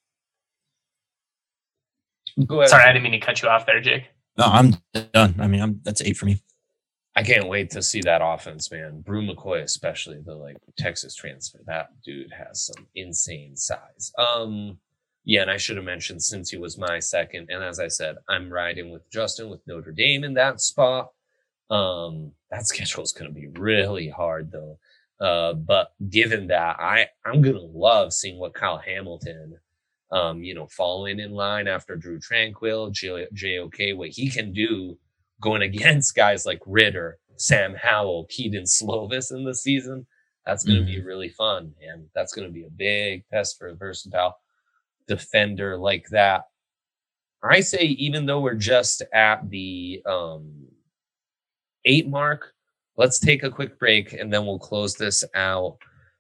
Go ahead. Sorry, I didn't mean to cut you off there, Jake. No, I'm done. I mean, that's 8 for me. I can't wait to see that offense, man. Brew McCoy, especially the Texas transfer. That dude has some insane size. Yeah, and I should have mentioned since he was my second, and as I said, I'm riding with Justin with Notre Dame in that spot. That schedule is going to be really hard though. But given that, I'm going to love seeing what Kyle Hamilton, following in line after Drew Tranquill, JOK, what he can do going against guys like Ritter, Sam Howell, Keaton Slovis in the season. That's going to be really fun. And that's going to be a big test for a versatile defender like that. I say, even though we're just at the 8 mark, let's take a quick break and then we'll close this out,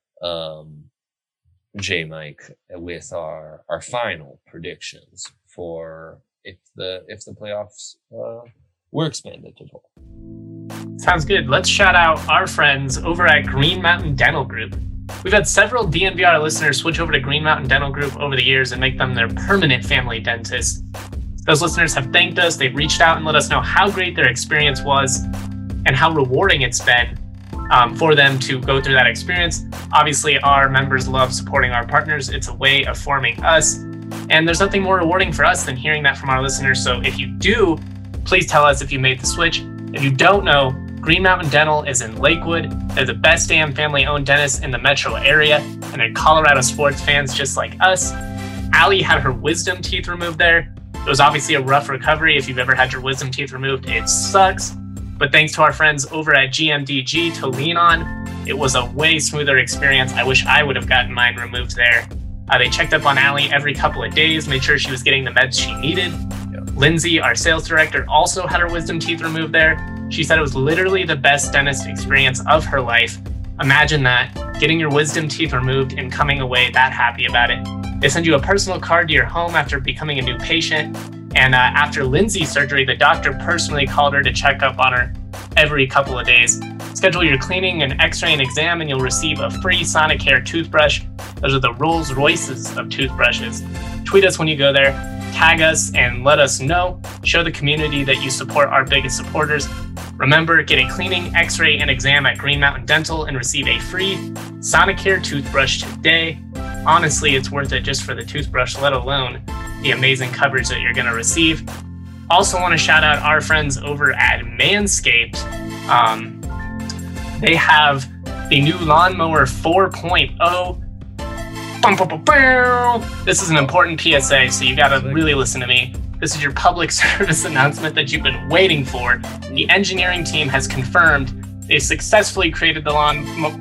Mike, with our final predictions for if the playoffs were expanded to 12. Sounds good. Let's shout out our friends over at Green Mountain Dental Group. We've had several DNVR listeners switch over to Green Mountain Dental Group over the years and make them their permanent family dentist. Those listeners have thanked us. They've reached out and let us know how great their experience was and how rewarding it's been for them to go through that experience. Obviously, our members love supporting our partners. It's a way of forming us. And there's nothing more rewarding for us than hearing that from our listeners. So if you do, please tell us if you made the switch. If you don't know, Green Mountain Dental is in Lakewood. They're the best damn family-owned dentist in the metro area, and they're Colorado sports fans just like us. Allie had her wisdom teeth removed there. It was obviously a rough recovery. If you've ever had your wisdom teeth removed, it sucks. But thanks to our friends over at GMDG to lean on, it was a way smoother experience. I wish I would have gotten mine removed there. They checked up on Allie every couple of days, made sure she was getting the meds she needed. Lindsay, our sales director, also had her wisdom teeth removed there. She said it was literally the best dentist experience of her life. Imagine that, getting your wisdom teeth removed and coming away that happy about it. They send you a personal card to your home after becoming a new patient. And after Lindsay's surgery, the doctor personally called her to check up on her every couple of days. Schedule your cleaning, an x-ray, and exam, and you'll receive a free Sonicare toothbrush. Those are the Rolls Royces of toothbrushes. Tweet us when you go there. Tag us and let us know. Show the community that you support our biggest supporters. Remember, get a cleaning, x-ray, and exam at Green Mountain Dental and receive a free Sonicare toothbrush today. Honestly, it's worth it just for the toothbrush, let alone the amazing coverage that you're going to receive. Also want to shout out our friends over at Manscaped. They have the new Lawnmower 4.0. This is an important PSA, so you got to really listen to me. This is your public service announcement that you've been waiting for. The engineering team has confirmed they successfully created the Lawnmower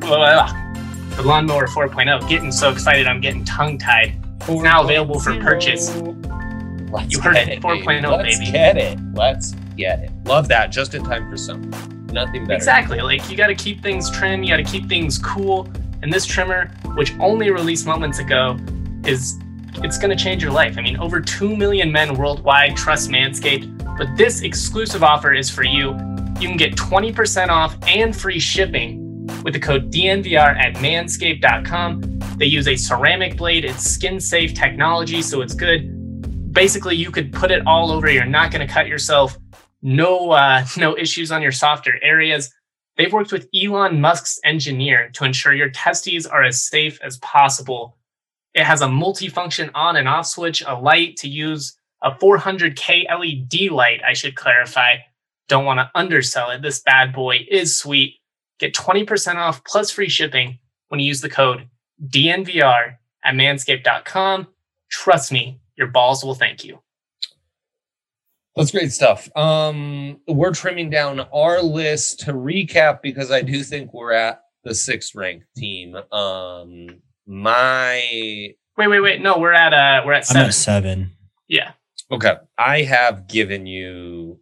4.0. Getting so excited, I'm getting tongue-tied. It's now available for purchase. You heard it, 4.0, baby. Let's get it. Love that. Just in time for summer. Nothing better. Exactly. You got to keep things trim. You got to keep things cool. And this trimmer, which only released moments ago, it's going to change your life. I mean, over 2 million men worldwide trust Manscaped, but this exclusive offer is for you. You can get 20% off and free shipping with the code DNVR at manscaped.com. They use a ceramic blade. It's skin-safe technology, so it's good. Basically, you could put it all over. You're not going to cut yourself. No issues on your softer areas. They've worked with Elon Musk's engineer to ensure your testes are as safe as possible. It has a multifunction on and off switch, a light to use, a 400K LED light, I should clarify. Don't want to undersell it. This bad boy is sweet. Get 20% off plus free shipping when you use the code DNVR at manscaped.com. Trust me, your balls will thank you. That's great stuff. We're trimming down our list to recap because I do think we're at the 6th ranked team. Wait. No, we're at 7. I'm at 7. Yeah. Okay. I have given you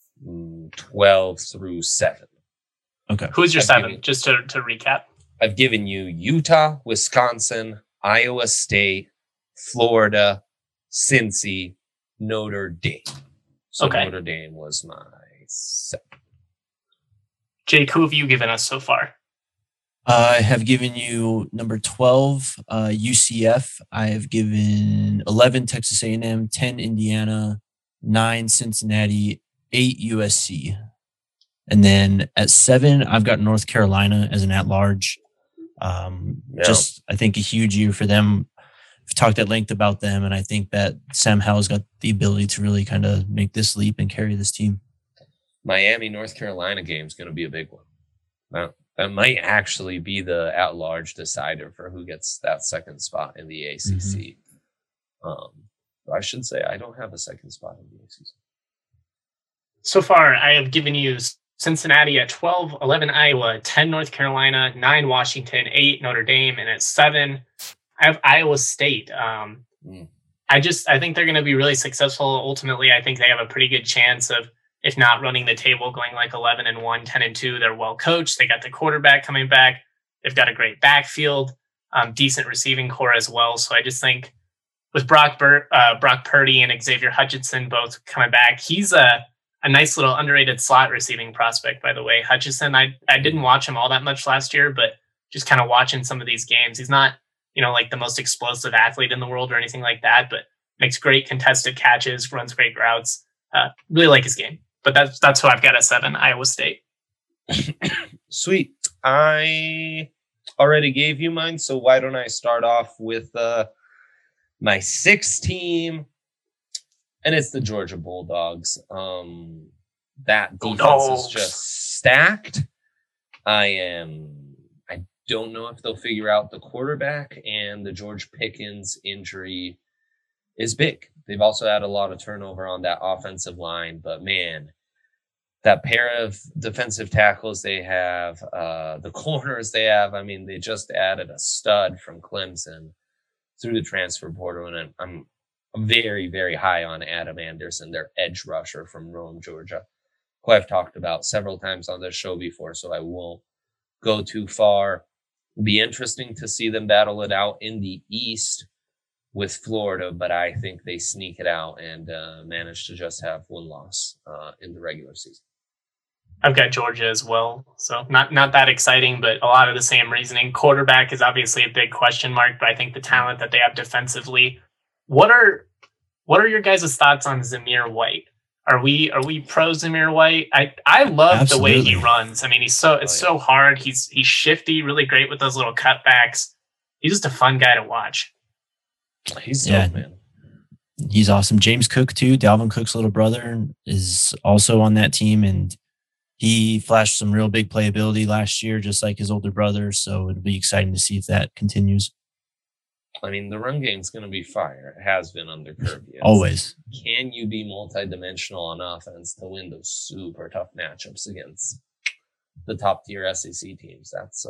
12 through 7. Okay. Who's your 7? Just to recap. I've given you Utah, Wisconsin, Iowa State, Florida, Cincy, Notre Dame. So okay. Notre Dame was my 7. Jake, who have you given us so far? I have given you number 12, UCF. I have given 11, Texas A&M, 10, Indiana, 9, Cincinnati, 8, USC. And then at 7, I've got North Carolina as an at-large. Just, I think, a huge year for them. I've talked at length about them, and I think that Sam Howell's got the ability to really kind of make this leap and carry this team. Miami, North Carolina game is going to be a big one. That might actually be the at-large decider for who gets that 2nd spot in the ACC. I should say I don't have a 2nd spot in the ACC. So far, I have given you Cincinnati at 12, 11 Iowa, 10 North Carolina, 9 Washington, 8 Notre Dame, and at 7, I have Iowa State. I think they're going to be really successful. Ultimately, I think they have a pretty good chance of, if not running the table, going like 11-1, 10-2. They're well coached. They got the quarterback coming back. They've got a great backfield, decent receiving core as well. So I just think with Brock Purdy and Xavier Hutchinson both coming back, he's a nice little underrated slot receiving prospect, by the way. Hutchinson, I didn't watch him all that much last year, but just kind of watching some of these games, he's not, like the most explosive athlete in the world or anything like that, but makes great contested catches, runs great routes. Really like his game. But that's who I've got at 7, Iowa State. Sweet. I already gave you mine, so why don't I start off with my 6th team, and it's the Georgia Bulldogs. That defense is just stacked. I don't know if they'll figure out the quarterback, and the George Pickens injury is big. They've also had a lot of turnover on that offensive line, but man, that pair of defensive tackles they have, the corners they have, I mean, they just added a stud from Clemson through the transfer portal, and I'm very, very high on Adam Anderson, their edge rusher from Rome, Georgia, who I've talked about several times on this show before, so I won't go too far. It'll be interesting to see them battle it out in the East with Florida, but I think they sneak it out and manage to just have one loss in the regular season. I've got Georgia as well, so not that exciting, but a lot of the same reasoning. Quarterback is obviously a big question mark, but I think the talent that they have defensively. What are your guys' thoughts on Zamir White? Are we pro Zamir White? I love Absolutely. The way he runs. I mean, it's so hard. He's shifty, really great with those little cutbacks. He's just a fun guy to watch. He's dope, man. He's awesome. James Cook too, Dalvin Cook's little brother, is also on that team, and he flashed some real big playability last year, just like his older brother. So it'll be exciting to see if that continues. I mean, the run game's going to be fire. It has been under Kirby. Always. Can you be multidimensional on offense to win those super tough matchups against the top tier SEC teams?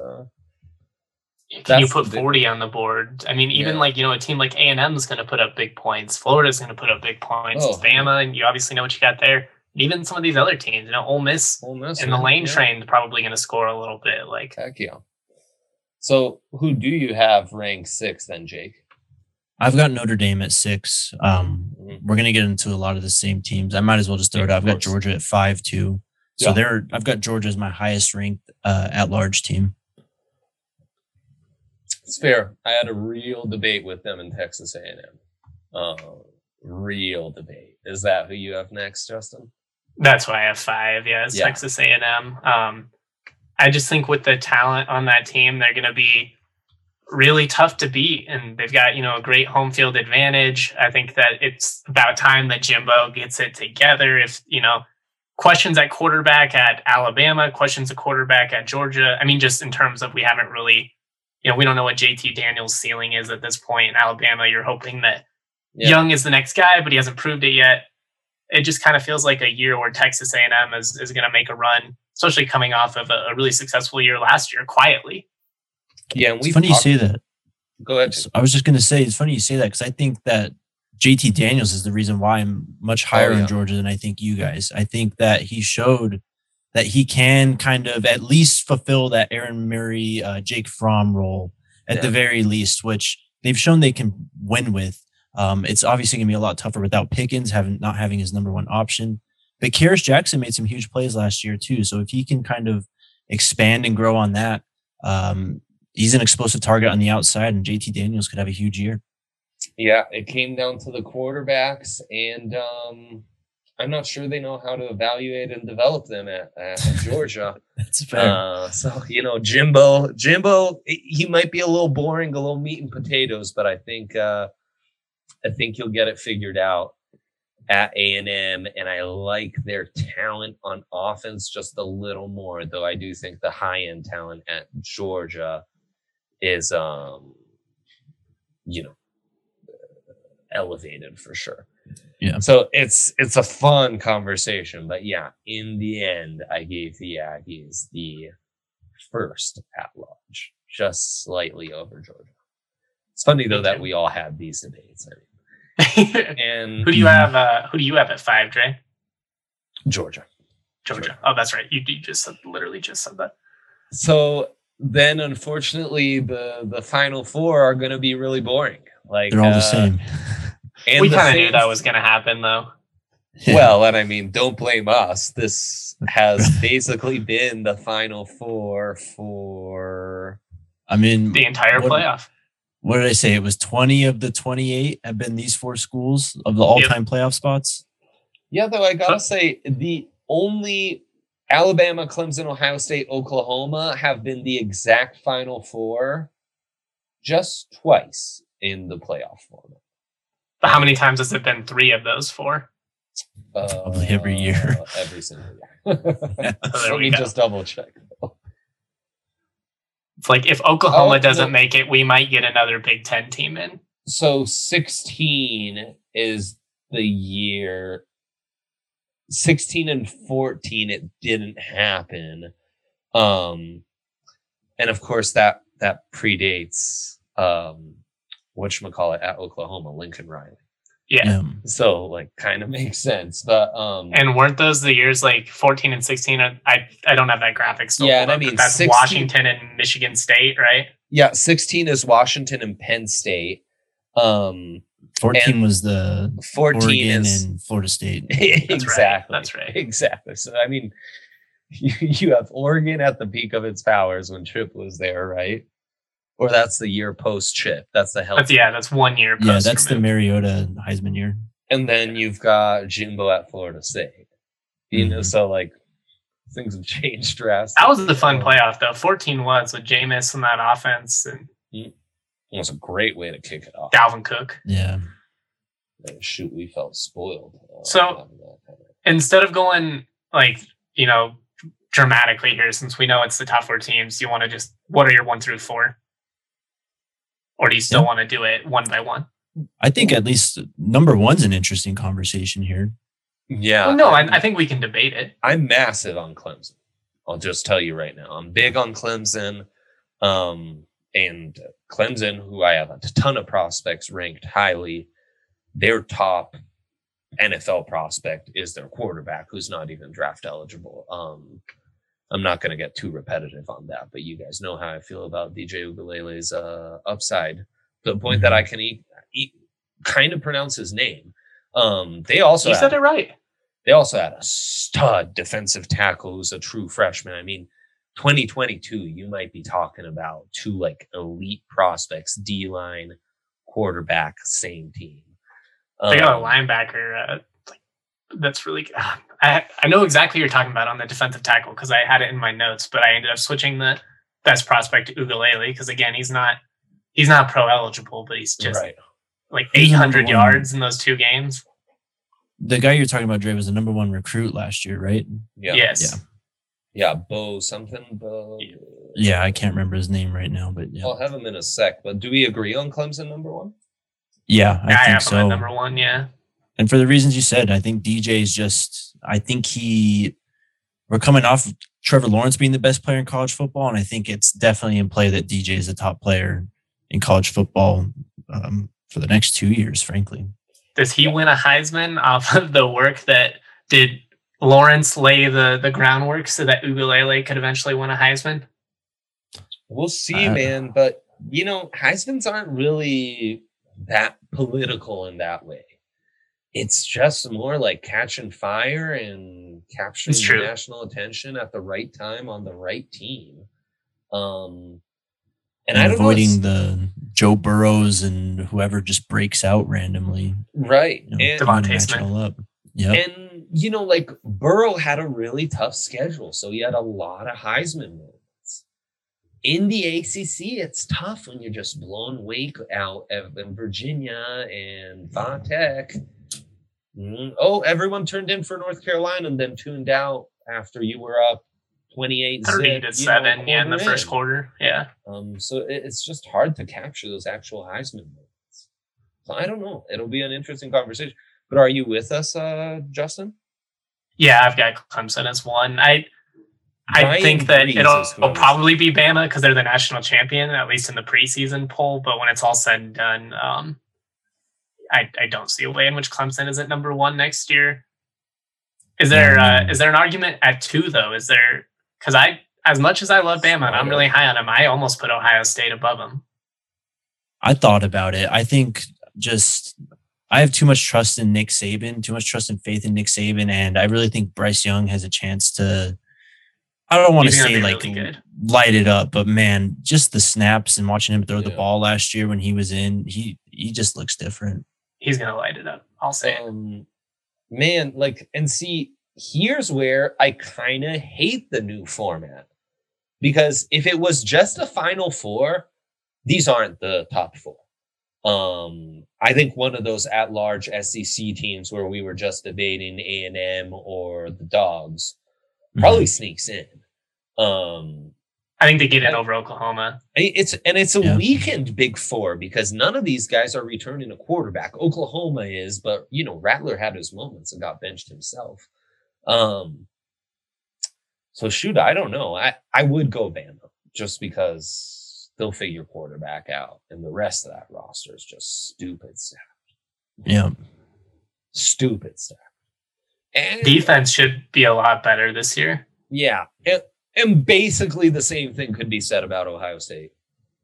Can you put 40 on the board? I mean, even a team like A&M is going to put up big points. Florida's going to put up big points. Bama, and you obviously know what you got there. And even some of these other teams, Ole Miss and the Lane Train probably going to score a little bit. Heck yeah. So who do you have ranked 6th then, Jake? I've got Notre Dame at 6. We're going to get into a lot of the same teams. I might as well just throw it out. I've got Georgia at 5 too. So I've got Georgia as my highest ranked at-large team. It's fair. I had a real debate with them in Texas A&M. Real debate. Is that who you have next, Justin? That's why I have 5. Yeah, it's Texas A&M. I just think with the talent on that team, they're going to be really tough to beat. And they've got, a great home field advantage. I think that it's about time that Jimbo gets it together. If, questions at quarterback at Alabama, questions at quarterback at Georgia. I mean, just in terms of we haven't really, we don't know what JT Daniels' ceiling is at this point. In Alabama, you're hoping that Young is the next guy, but he hasn't proved it yet. it just kind of feels like a year where Texas A&M is going to make a run, especially coming off of a really successful year last year, quietly. Yeah, and it's funny you say that. Go ahead. I was just going to say, it's funny you say that because I think that JT Daniels is the reason why I'm much higher in Georgia than I think you guys. I think that he showed that he can kind of at least fulfill that Aaron Murray, Jake Fromm role at the very least, which they've shown they can win with. It's obviously going to be a lot tougher without Pickens not having his number one option. But Karis Jackson made some huge plays last year too. So if he can kind of expand and grow on that, he's an explosive target on the outside, and JT Daniels could have a huge year. Yeah, it came down to the quarterbacks, and I'm not sure they know how to evaluate and develop them at Georgia. That's fair. So, Jimbo, he might be a little boring, a little meat and potatoes, but I think you'll get it figured out at A&M, and I like their talent on offense just a little more, though I do think the high-end talent at Georgia is, elevated for sure. Yeah. So it's a fun conversation, but yeah, in the end, I gave the Aggies the first at large, just slightly over Georgia. It's funny though that we all had these debates. And who do you have at 5, Dre? Georgia. Oh, that's right. You literally just said that. So then, unfortunately, the final four are going to be really boring. Like they're all the same. And we kind of knew that was going to happen, though. Well, and I mean, don't blame us. This has basically been the final four for. I mean, the entire playoff. What did I say? It was 20 of the 28 have been these 4 schools of the all-time playoff spots. Yeah, though I gotta say the only Alabama, Clemson, Ohio State, Oklahoma have been the exact final four just twice in the playoff format. But how many times has it been 3 of those 4? Probably every year. Every single year. Let me just double check. It's like if Oklahoma doesn't make it, we might get another Big Ten team in. So 16 is the year. 16 and 14, it didn't happen. And of course that predates whatchamacallit at Oklahoma, Lincoln Riley. Yeah. So like kind of makes sense. But and weren't those the years like 14 and 16? I don't have that graphic still. Yeah, and I mean that's 16, Washington and Michigan State, right? Yeah, 16 is Washington and Penn State. 14 was the 14 Oregon is and Florida State. Exactly. That's right. Exactly. So I mean, you have Oregon at the peak of its powers when Chip was there, right? Or that's the year post Chip. That's the health. That's 1 year post. Yeah, that's the Mariota Heisman year. And then you've got Jimbo at Florida State. You know, so like things have changed drastically. That was the fun playoff though. 14 was with Jameis and that offense, and it was a great way to kick it off. Dalvin Cook. Yeah. Shoot, we felt spoiled. So instead of going dramatically here, since we know it's the top 4 teams, you want to just, what are your 1 through 4? Or do you still want to do it one by one? I think at least number 1's an interesting conversation here. Yeah. Well, no, I think we can debate it. I'm massive on Clemson. I'll just tell you right now. I'm big on Clemson. And Clemson, who I have a ton of prospects ranked highly, their top NFL prospect is their quarterback, who's not even draft eligible. I'm not going to get too repetitive on that, but you guys know how I feel about DJ Ugalele's upside, to the point that I can kind of pronounce his name. They also said it right. They also had a stud defensive tackle who's a true freshman. I mean, 2022, you might be talking about 2 like elite prospects, D-line, quarterback, same team. They got a linebacker that's really good. I know exactly what you're talking about on the defensive tackle because I had it in my notes, but I ended up switching the best prospect to Ugalele because again, he's not pro eligible, but he's just like 800 yards in those 2 games. The guy you're talking about, Dre, was the number 1 recruit last year, right? Yeah. Yes. Yeah, Bo something. Bo. Yeah, I can't remember his name right now, but yeah. I'll have him in a sec. But do we agree on Clemson number 1? Yeah, I think have so. him at number 1, yeah. And for the reasons you said, I think DJ is just, we're coming off of Trevor Lawrence being the best player in college football. And I think it's definitely in play that DJ is the top player in college football for the next 2 years, frankly. Does he win a Heisman off of the work that did Lawrence lay the groundwork so that Ugalele could eventually win a Heisman? We'll see, man. But, Heismans aren't really that political in that way. It's just more like catching fire and capturing national attention at the right time on the right team. And I don't avoiding the Joe Burrows and whoever just breaks out randomly. Right. And Devontae Smith. Yep. And, Burrow had a really tough schedule. So he had a lot of Heisman moments. In the ACC, it's tough when you're just blowing Wake out in Virginia and Va-Tech. Oh, everyone turned in for North Carolina and then tuned out after you were up 30-7 in the first quarter. Yeah. So it's just hard to capture those actual Heisman moments. So I don't know. It'll be an interesting conversation. But are you with us, Justin? Yeah, I've got Clemson as one. I think that it'll probably be Bama because they're the national champion, at least in the preseason poll. But when it's all said and done, I don't see a way in which Clemson is at number one next year. Is there an argument at 2 though? Is there, because as much as I love Bama and I'm really high on them, I almost put Ohio State above them. I thought about it. I think I have too much trust in Nick Saban, too much trust and faith in Nick Saban, and I really think Bryce Young has a chance to. I don't want to say really light it up, but man, just the snaps and watching him throw the ball last year when he was in, he just looks different. He's gonna light it up. I'll say it. Man, and see, here's where I kind of hate the new format. Because if it was just a Final Four, these aren't the top 4. I think one of those at-large SEC teams where we were just debating A&M or the Dogs probably sneaks in. I think they get in over Oklahoma. It's a weakened Big Four because none of these guys are returning a quarterback. Oklahoma is, but Rattler had his moments and got benched himself. So shoot, I don't know. I would go Bama just because they'll figure quarterback out, and the rest of that roster is just stupid stuff. Yeah, stupid stuff. And defense should be a lot better this year. Yeah. And basically the same thing could be said about Ohio State.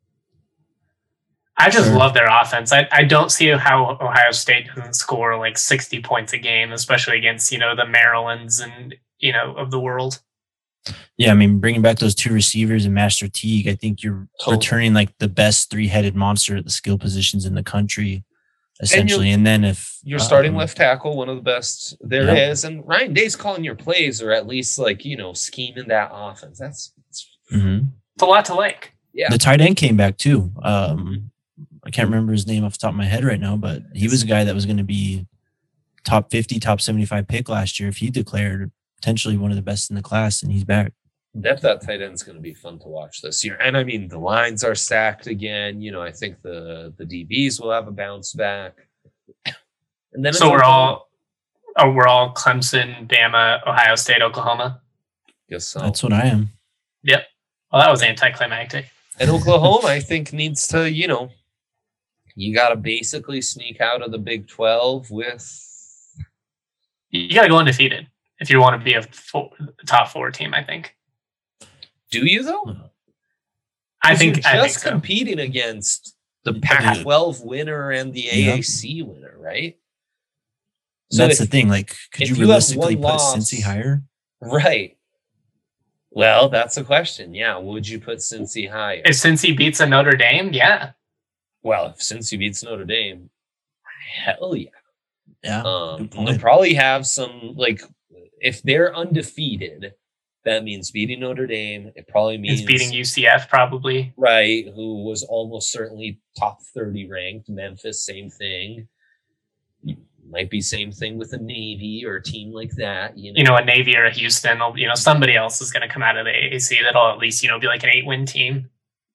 I just love their offense. I don't see how Ohio State doesn't score like 60 points a game, especially against, the Marylands and, of the world. Yeah, I mean, bringing back those 2 receivers and Master Teague, I think you're returning like the best 3-headed monster at the skill positions in the country, essentially. And then if you're starting left tackle, one of the best there is, and Ryan Day's calling your plays, or at least scheming that offense. It's a lot to like. Yeah, the tight end came back too. I can't remember his name off the top of my head right now, but he was a guy that was going to be top 50, top 75 pick last year if he declared potentially one of the best in the class, and he's back. Depth at tight end is going to be fun to watch this year. And I mean, the lines are stacked again. I think the DBs will have a bounce back. And then so we're all Clemson, Bama, Ohio State, Oklahoma. Guess so. That's what I am. Yep. Well, that was anticlimactic. And Oklahoma, I think, needs to, you got to basically sneak out of the Big 12 with. You got to go undefeated if you want to be a top 4 team, I think. Do you, though? I think so. Competing against the Pac-12 winner and the AAC winner, right? So that's the thing. Could you realistically put Cincy higher? Right. Well, that's a question. Yeah. Would you put Cincy higher? If Cincy beats a Notre Dame, yeah. Well, if Cincy beats Notre Dame, hell yeah. Yeah. They'll probably have some, if they're undefeated, that means beating Notre Dame. It probably means beating UCF, probably. Right. Who was almost certainly top 30 ranked. Memphis, same thing. Might be same thing with a Navy or a team like that. A Navy or a Houston, somebody else is going to come out of the AAC that'll at least, be like an 8-win team.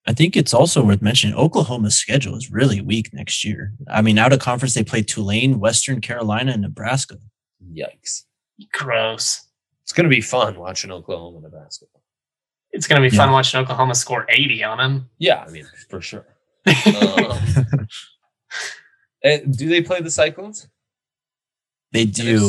I think it's also worth mentioning Oklahoma's schedule is really weak next year. I mean, out of conference, they play Tulane, Western Carolina, and Nebraska. Yikes. Gross. It's going to be fun watching Oklahoma, Nebraska. It's going to be fun watching Oklahoma score 80 on them. Yeah, I mean, for sure. Do they play the Cyclones? They do.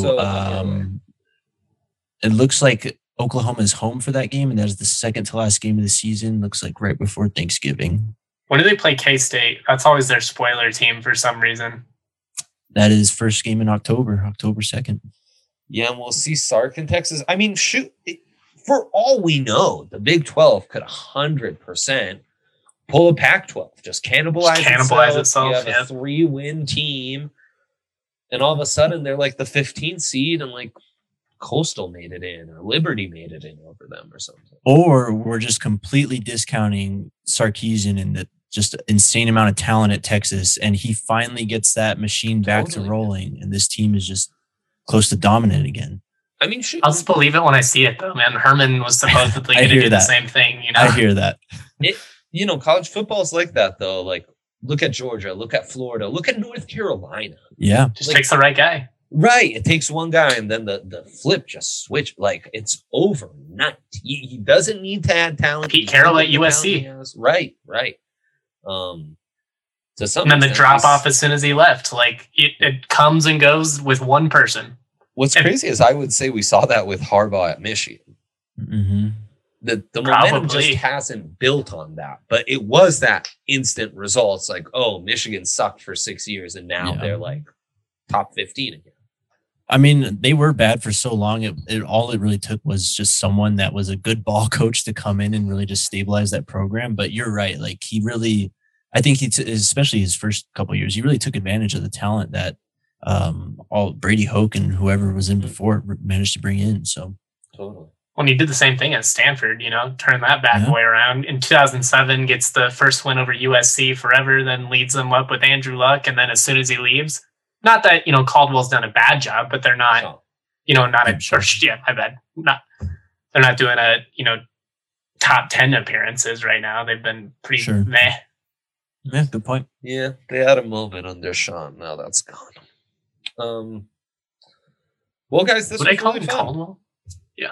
It looks like Oklahoma is home for that game, and that is the second to last game of the season. Looks like right before Thanksgiving. When do they play K-State? That's always their spoiler team for some reason. That is first game in October 2nd. Yeah, and we'll see Sark in Texas. I mean, shoot, for all we know, the Big 12 could 100% pull a Pac-12, just cannibalize itself. You have a 3-win team, and all of a sudden they're like the 15th seed, and like Coastal made it in, or Liberty made it in over them, or something. Or we're just completely discounting Sarkisian and the just insane amount of talent at Texas, and he finally gets that machine back to rolling, and this team is just close to dominant again. I mean, shoot. I'll just believe it when I see it, though, man. Herman was supposedly going to do the same thing. You know, I hear that. College football is like that, though. Like, look at Georgia, look at Florida, look at North Carolina. Yeah, just takes the right guy. Right. It takes one guy and then the flip just switch. Like, it's overnight. He doesn't need to add talent. Pete Carroll at USC. Right. To some and then the drop off as soon as he left. Like, it comes and goes with one person. What's crazy is I would say we saw that with Harbaugh at Michigan. Mm-hmm. The momentum just hasn't built on that. But it was that instant results. Like, oh, Michigan sucked for 6 years and now they're like top 15 again. I mean, they were bad for so long. All it really took was just someone that was a good ball coach to come in and really just stabilize that program. But you're right. Like, he really, I think especially his first couple of years, he really took advantage of the talent that all Brady Hoke and whoever was in before managed to bring in. So totally. Well, he did the same thing at Stanford, turn that bad boy around. In 2007, gets the first win over USC forever, then leads them up with Andrew Luck. And then as soon as he leaves, not that, Caldwell's done a bad job, but they're not, they're not doing top 10 appearances right now. They've been pretty meh. Yeah, good point. Yeah, they had a moment under Sean. Now that's gone. Well, guys, this was really fun. Caldwell? Yeah.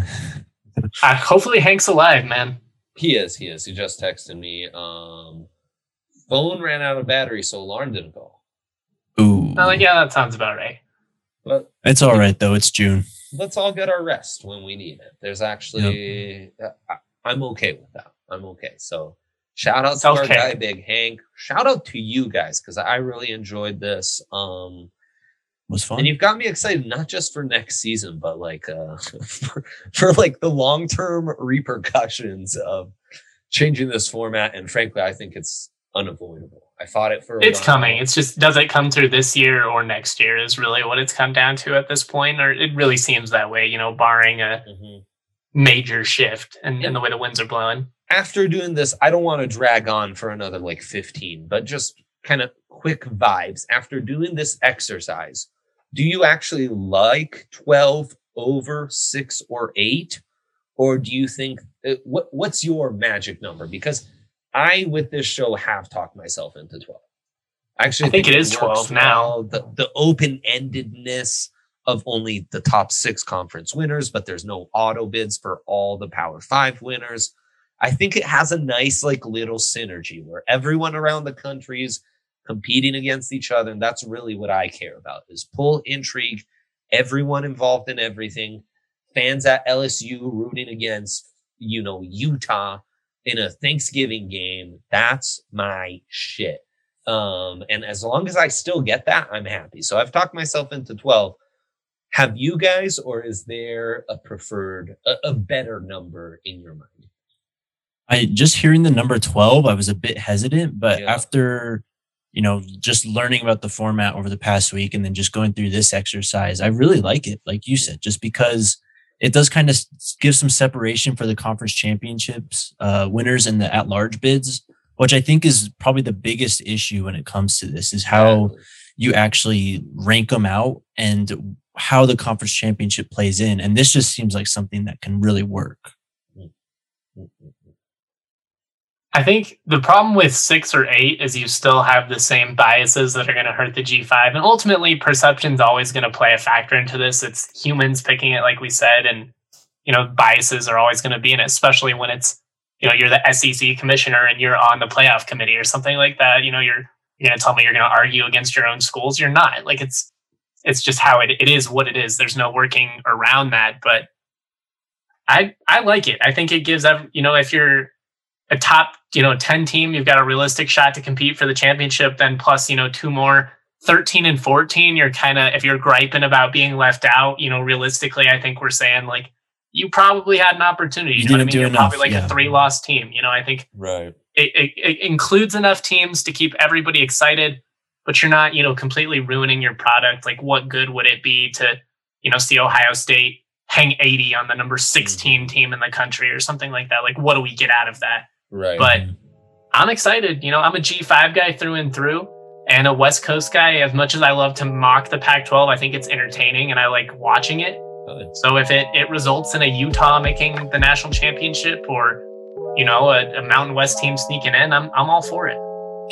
Hopefully Hank's alive, man. He is. He just texted me. Phone ran out of battery, so alarm didn't go. Ooh. That sounds about right. But it's all right, though. It's June. Let's all get our rest when we need it. There's actually... I'm okay with that. I'm okay. So shout out to our guy, Big Hank. Shout out to you guys, because I really enjoyed this. It was fun. And you've got me excited, not just for next season, but for like the long-term repercussions of changing this format. And frankly, I think it's unavoidable. I fought it for a It's while. coming. It's just, does it come through this year or next year is really what it's come down to at this point. Or it really seems that way, barring a major shift and the way the winds are blowing. After doing this, I don't want to drag on for another 15, but just kind of quick vibes. After doing this exercise, do you actually like 12 over 6 or 8? Or do you think, what's your magic number? Because I, with this show, have talked myself into 12. Actually, I think it is 12 now. The open-endedness of only the top 6 conference winners, but there's no auto bids for all the Power 5 winners. I think it has a nice little synergy where everyone around the country is competing against each other. And that's really what I care about, is pull intrigue, everyone involved in everything, fans at LSU rooting against, Utah in a Thanksgiving game. That's my shit. And as long as I still get that, I'm happy. So I've talked myself into 12. Have you guys, or is there a preferred, a better number in your mind? Just hearing the number 12, I was a bit hesitant, but after, just learning about the format over the past week and then just going through this exercise, I really like it. Like you said, just because it does kind of give some separation for the conference championships winners and the at-large bids, which I think is probably the biggest issue when it comes to this, is how you actually rank them out and how the conference championship plays in. And this just seems like something that can really work. I think the problem with 6 or 8 is you still have the same biases that are going to hurt the G5. And ultimately, perception's always going to play a factor into this. It's humans picking it, like we said, and, biases are always going to be in it, especially when it's, you're the SEC commissioner and you're on the playoff committee or something like that. You're going to tell me you're going to argue against your own schools. You're not. Like, it's just how it is what it is. There's no working around that. But I like it. I think it gives, if you're a top, 10 team, you've got a realistic shot to compete for the championship. Then plus, 2 more, 13 and 14, you're kind of, if you're griping about being left out, realistically, I think we're saying like, you probably had an opportunity. You know what I mean? You're probably like a 3-loss team. I think right. It includes enough teams to keep everybody excited, but you're not, completely ruining your product. Like, what good would it be to, see Ohio State hang 80 on the number 16 team in the country or something like that? Like, what do we get out of that? Right. But I'm excited. I'm a G5 guy through and through and a West Coast guy. As much as I love to mock the Pac-12, I think it's entertaining and I like watching it. So if it results in a Utah making the national championship or, a Mountain West team sneaking in, I'm all for it.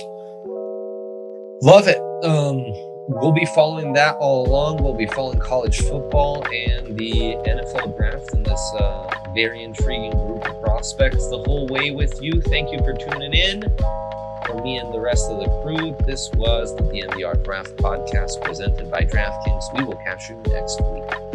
Love it. We'll be following that all along. We'll be following college football and the NFL draft and this very intriguing group of prospects the whole way with you. Thank you for tuning in. For me and the rest of the crew, this was the DNVR Draft Podcast presented by DraftKings. We will catch you next week.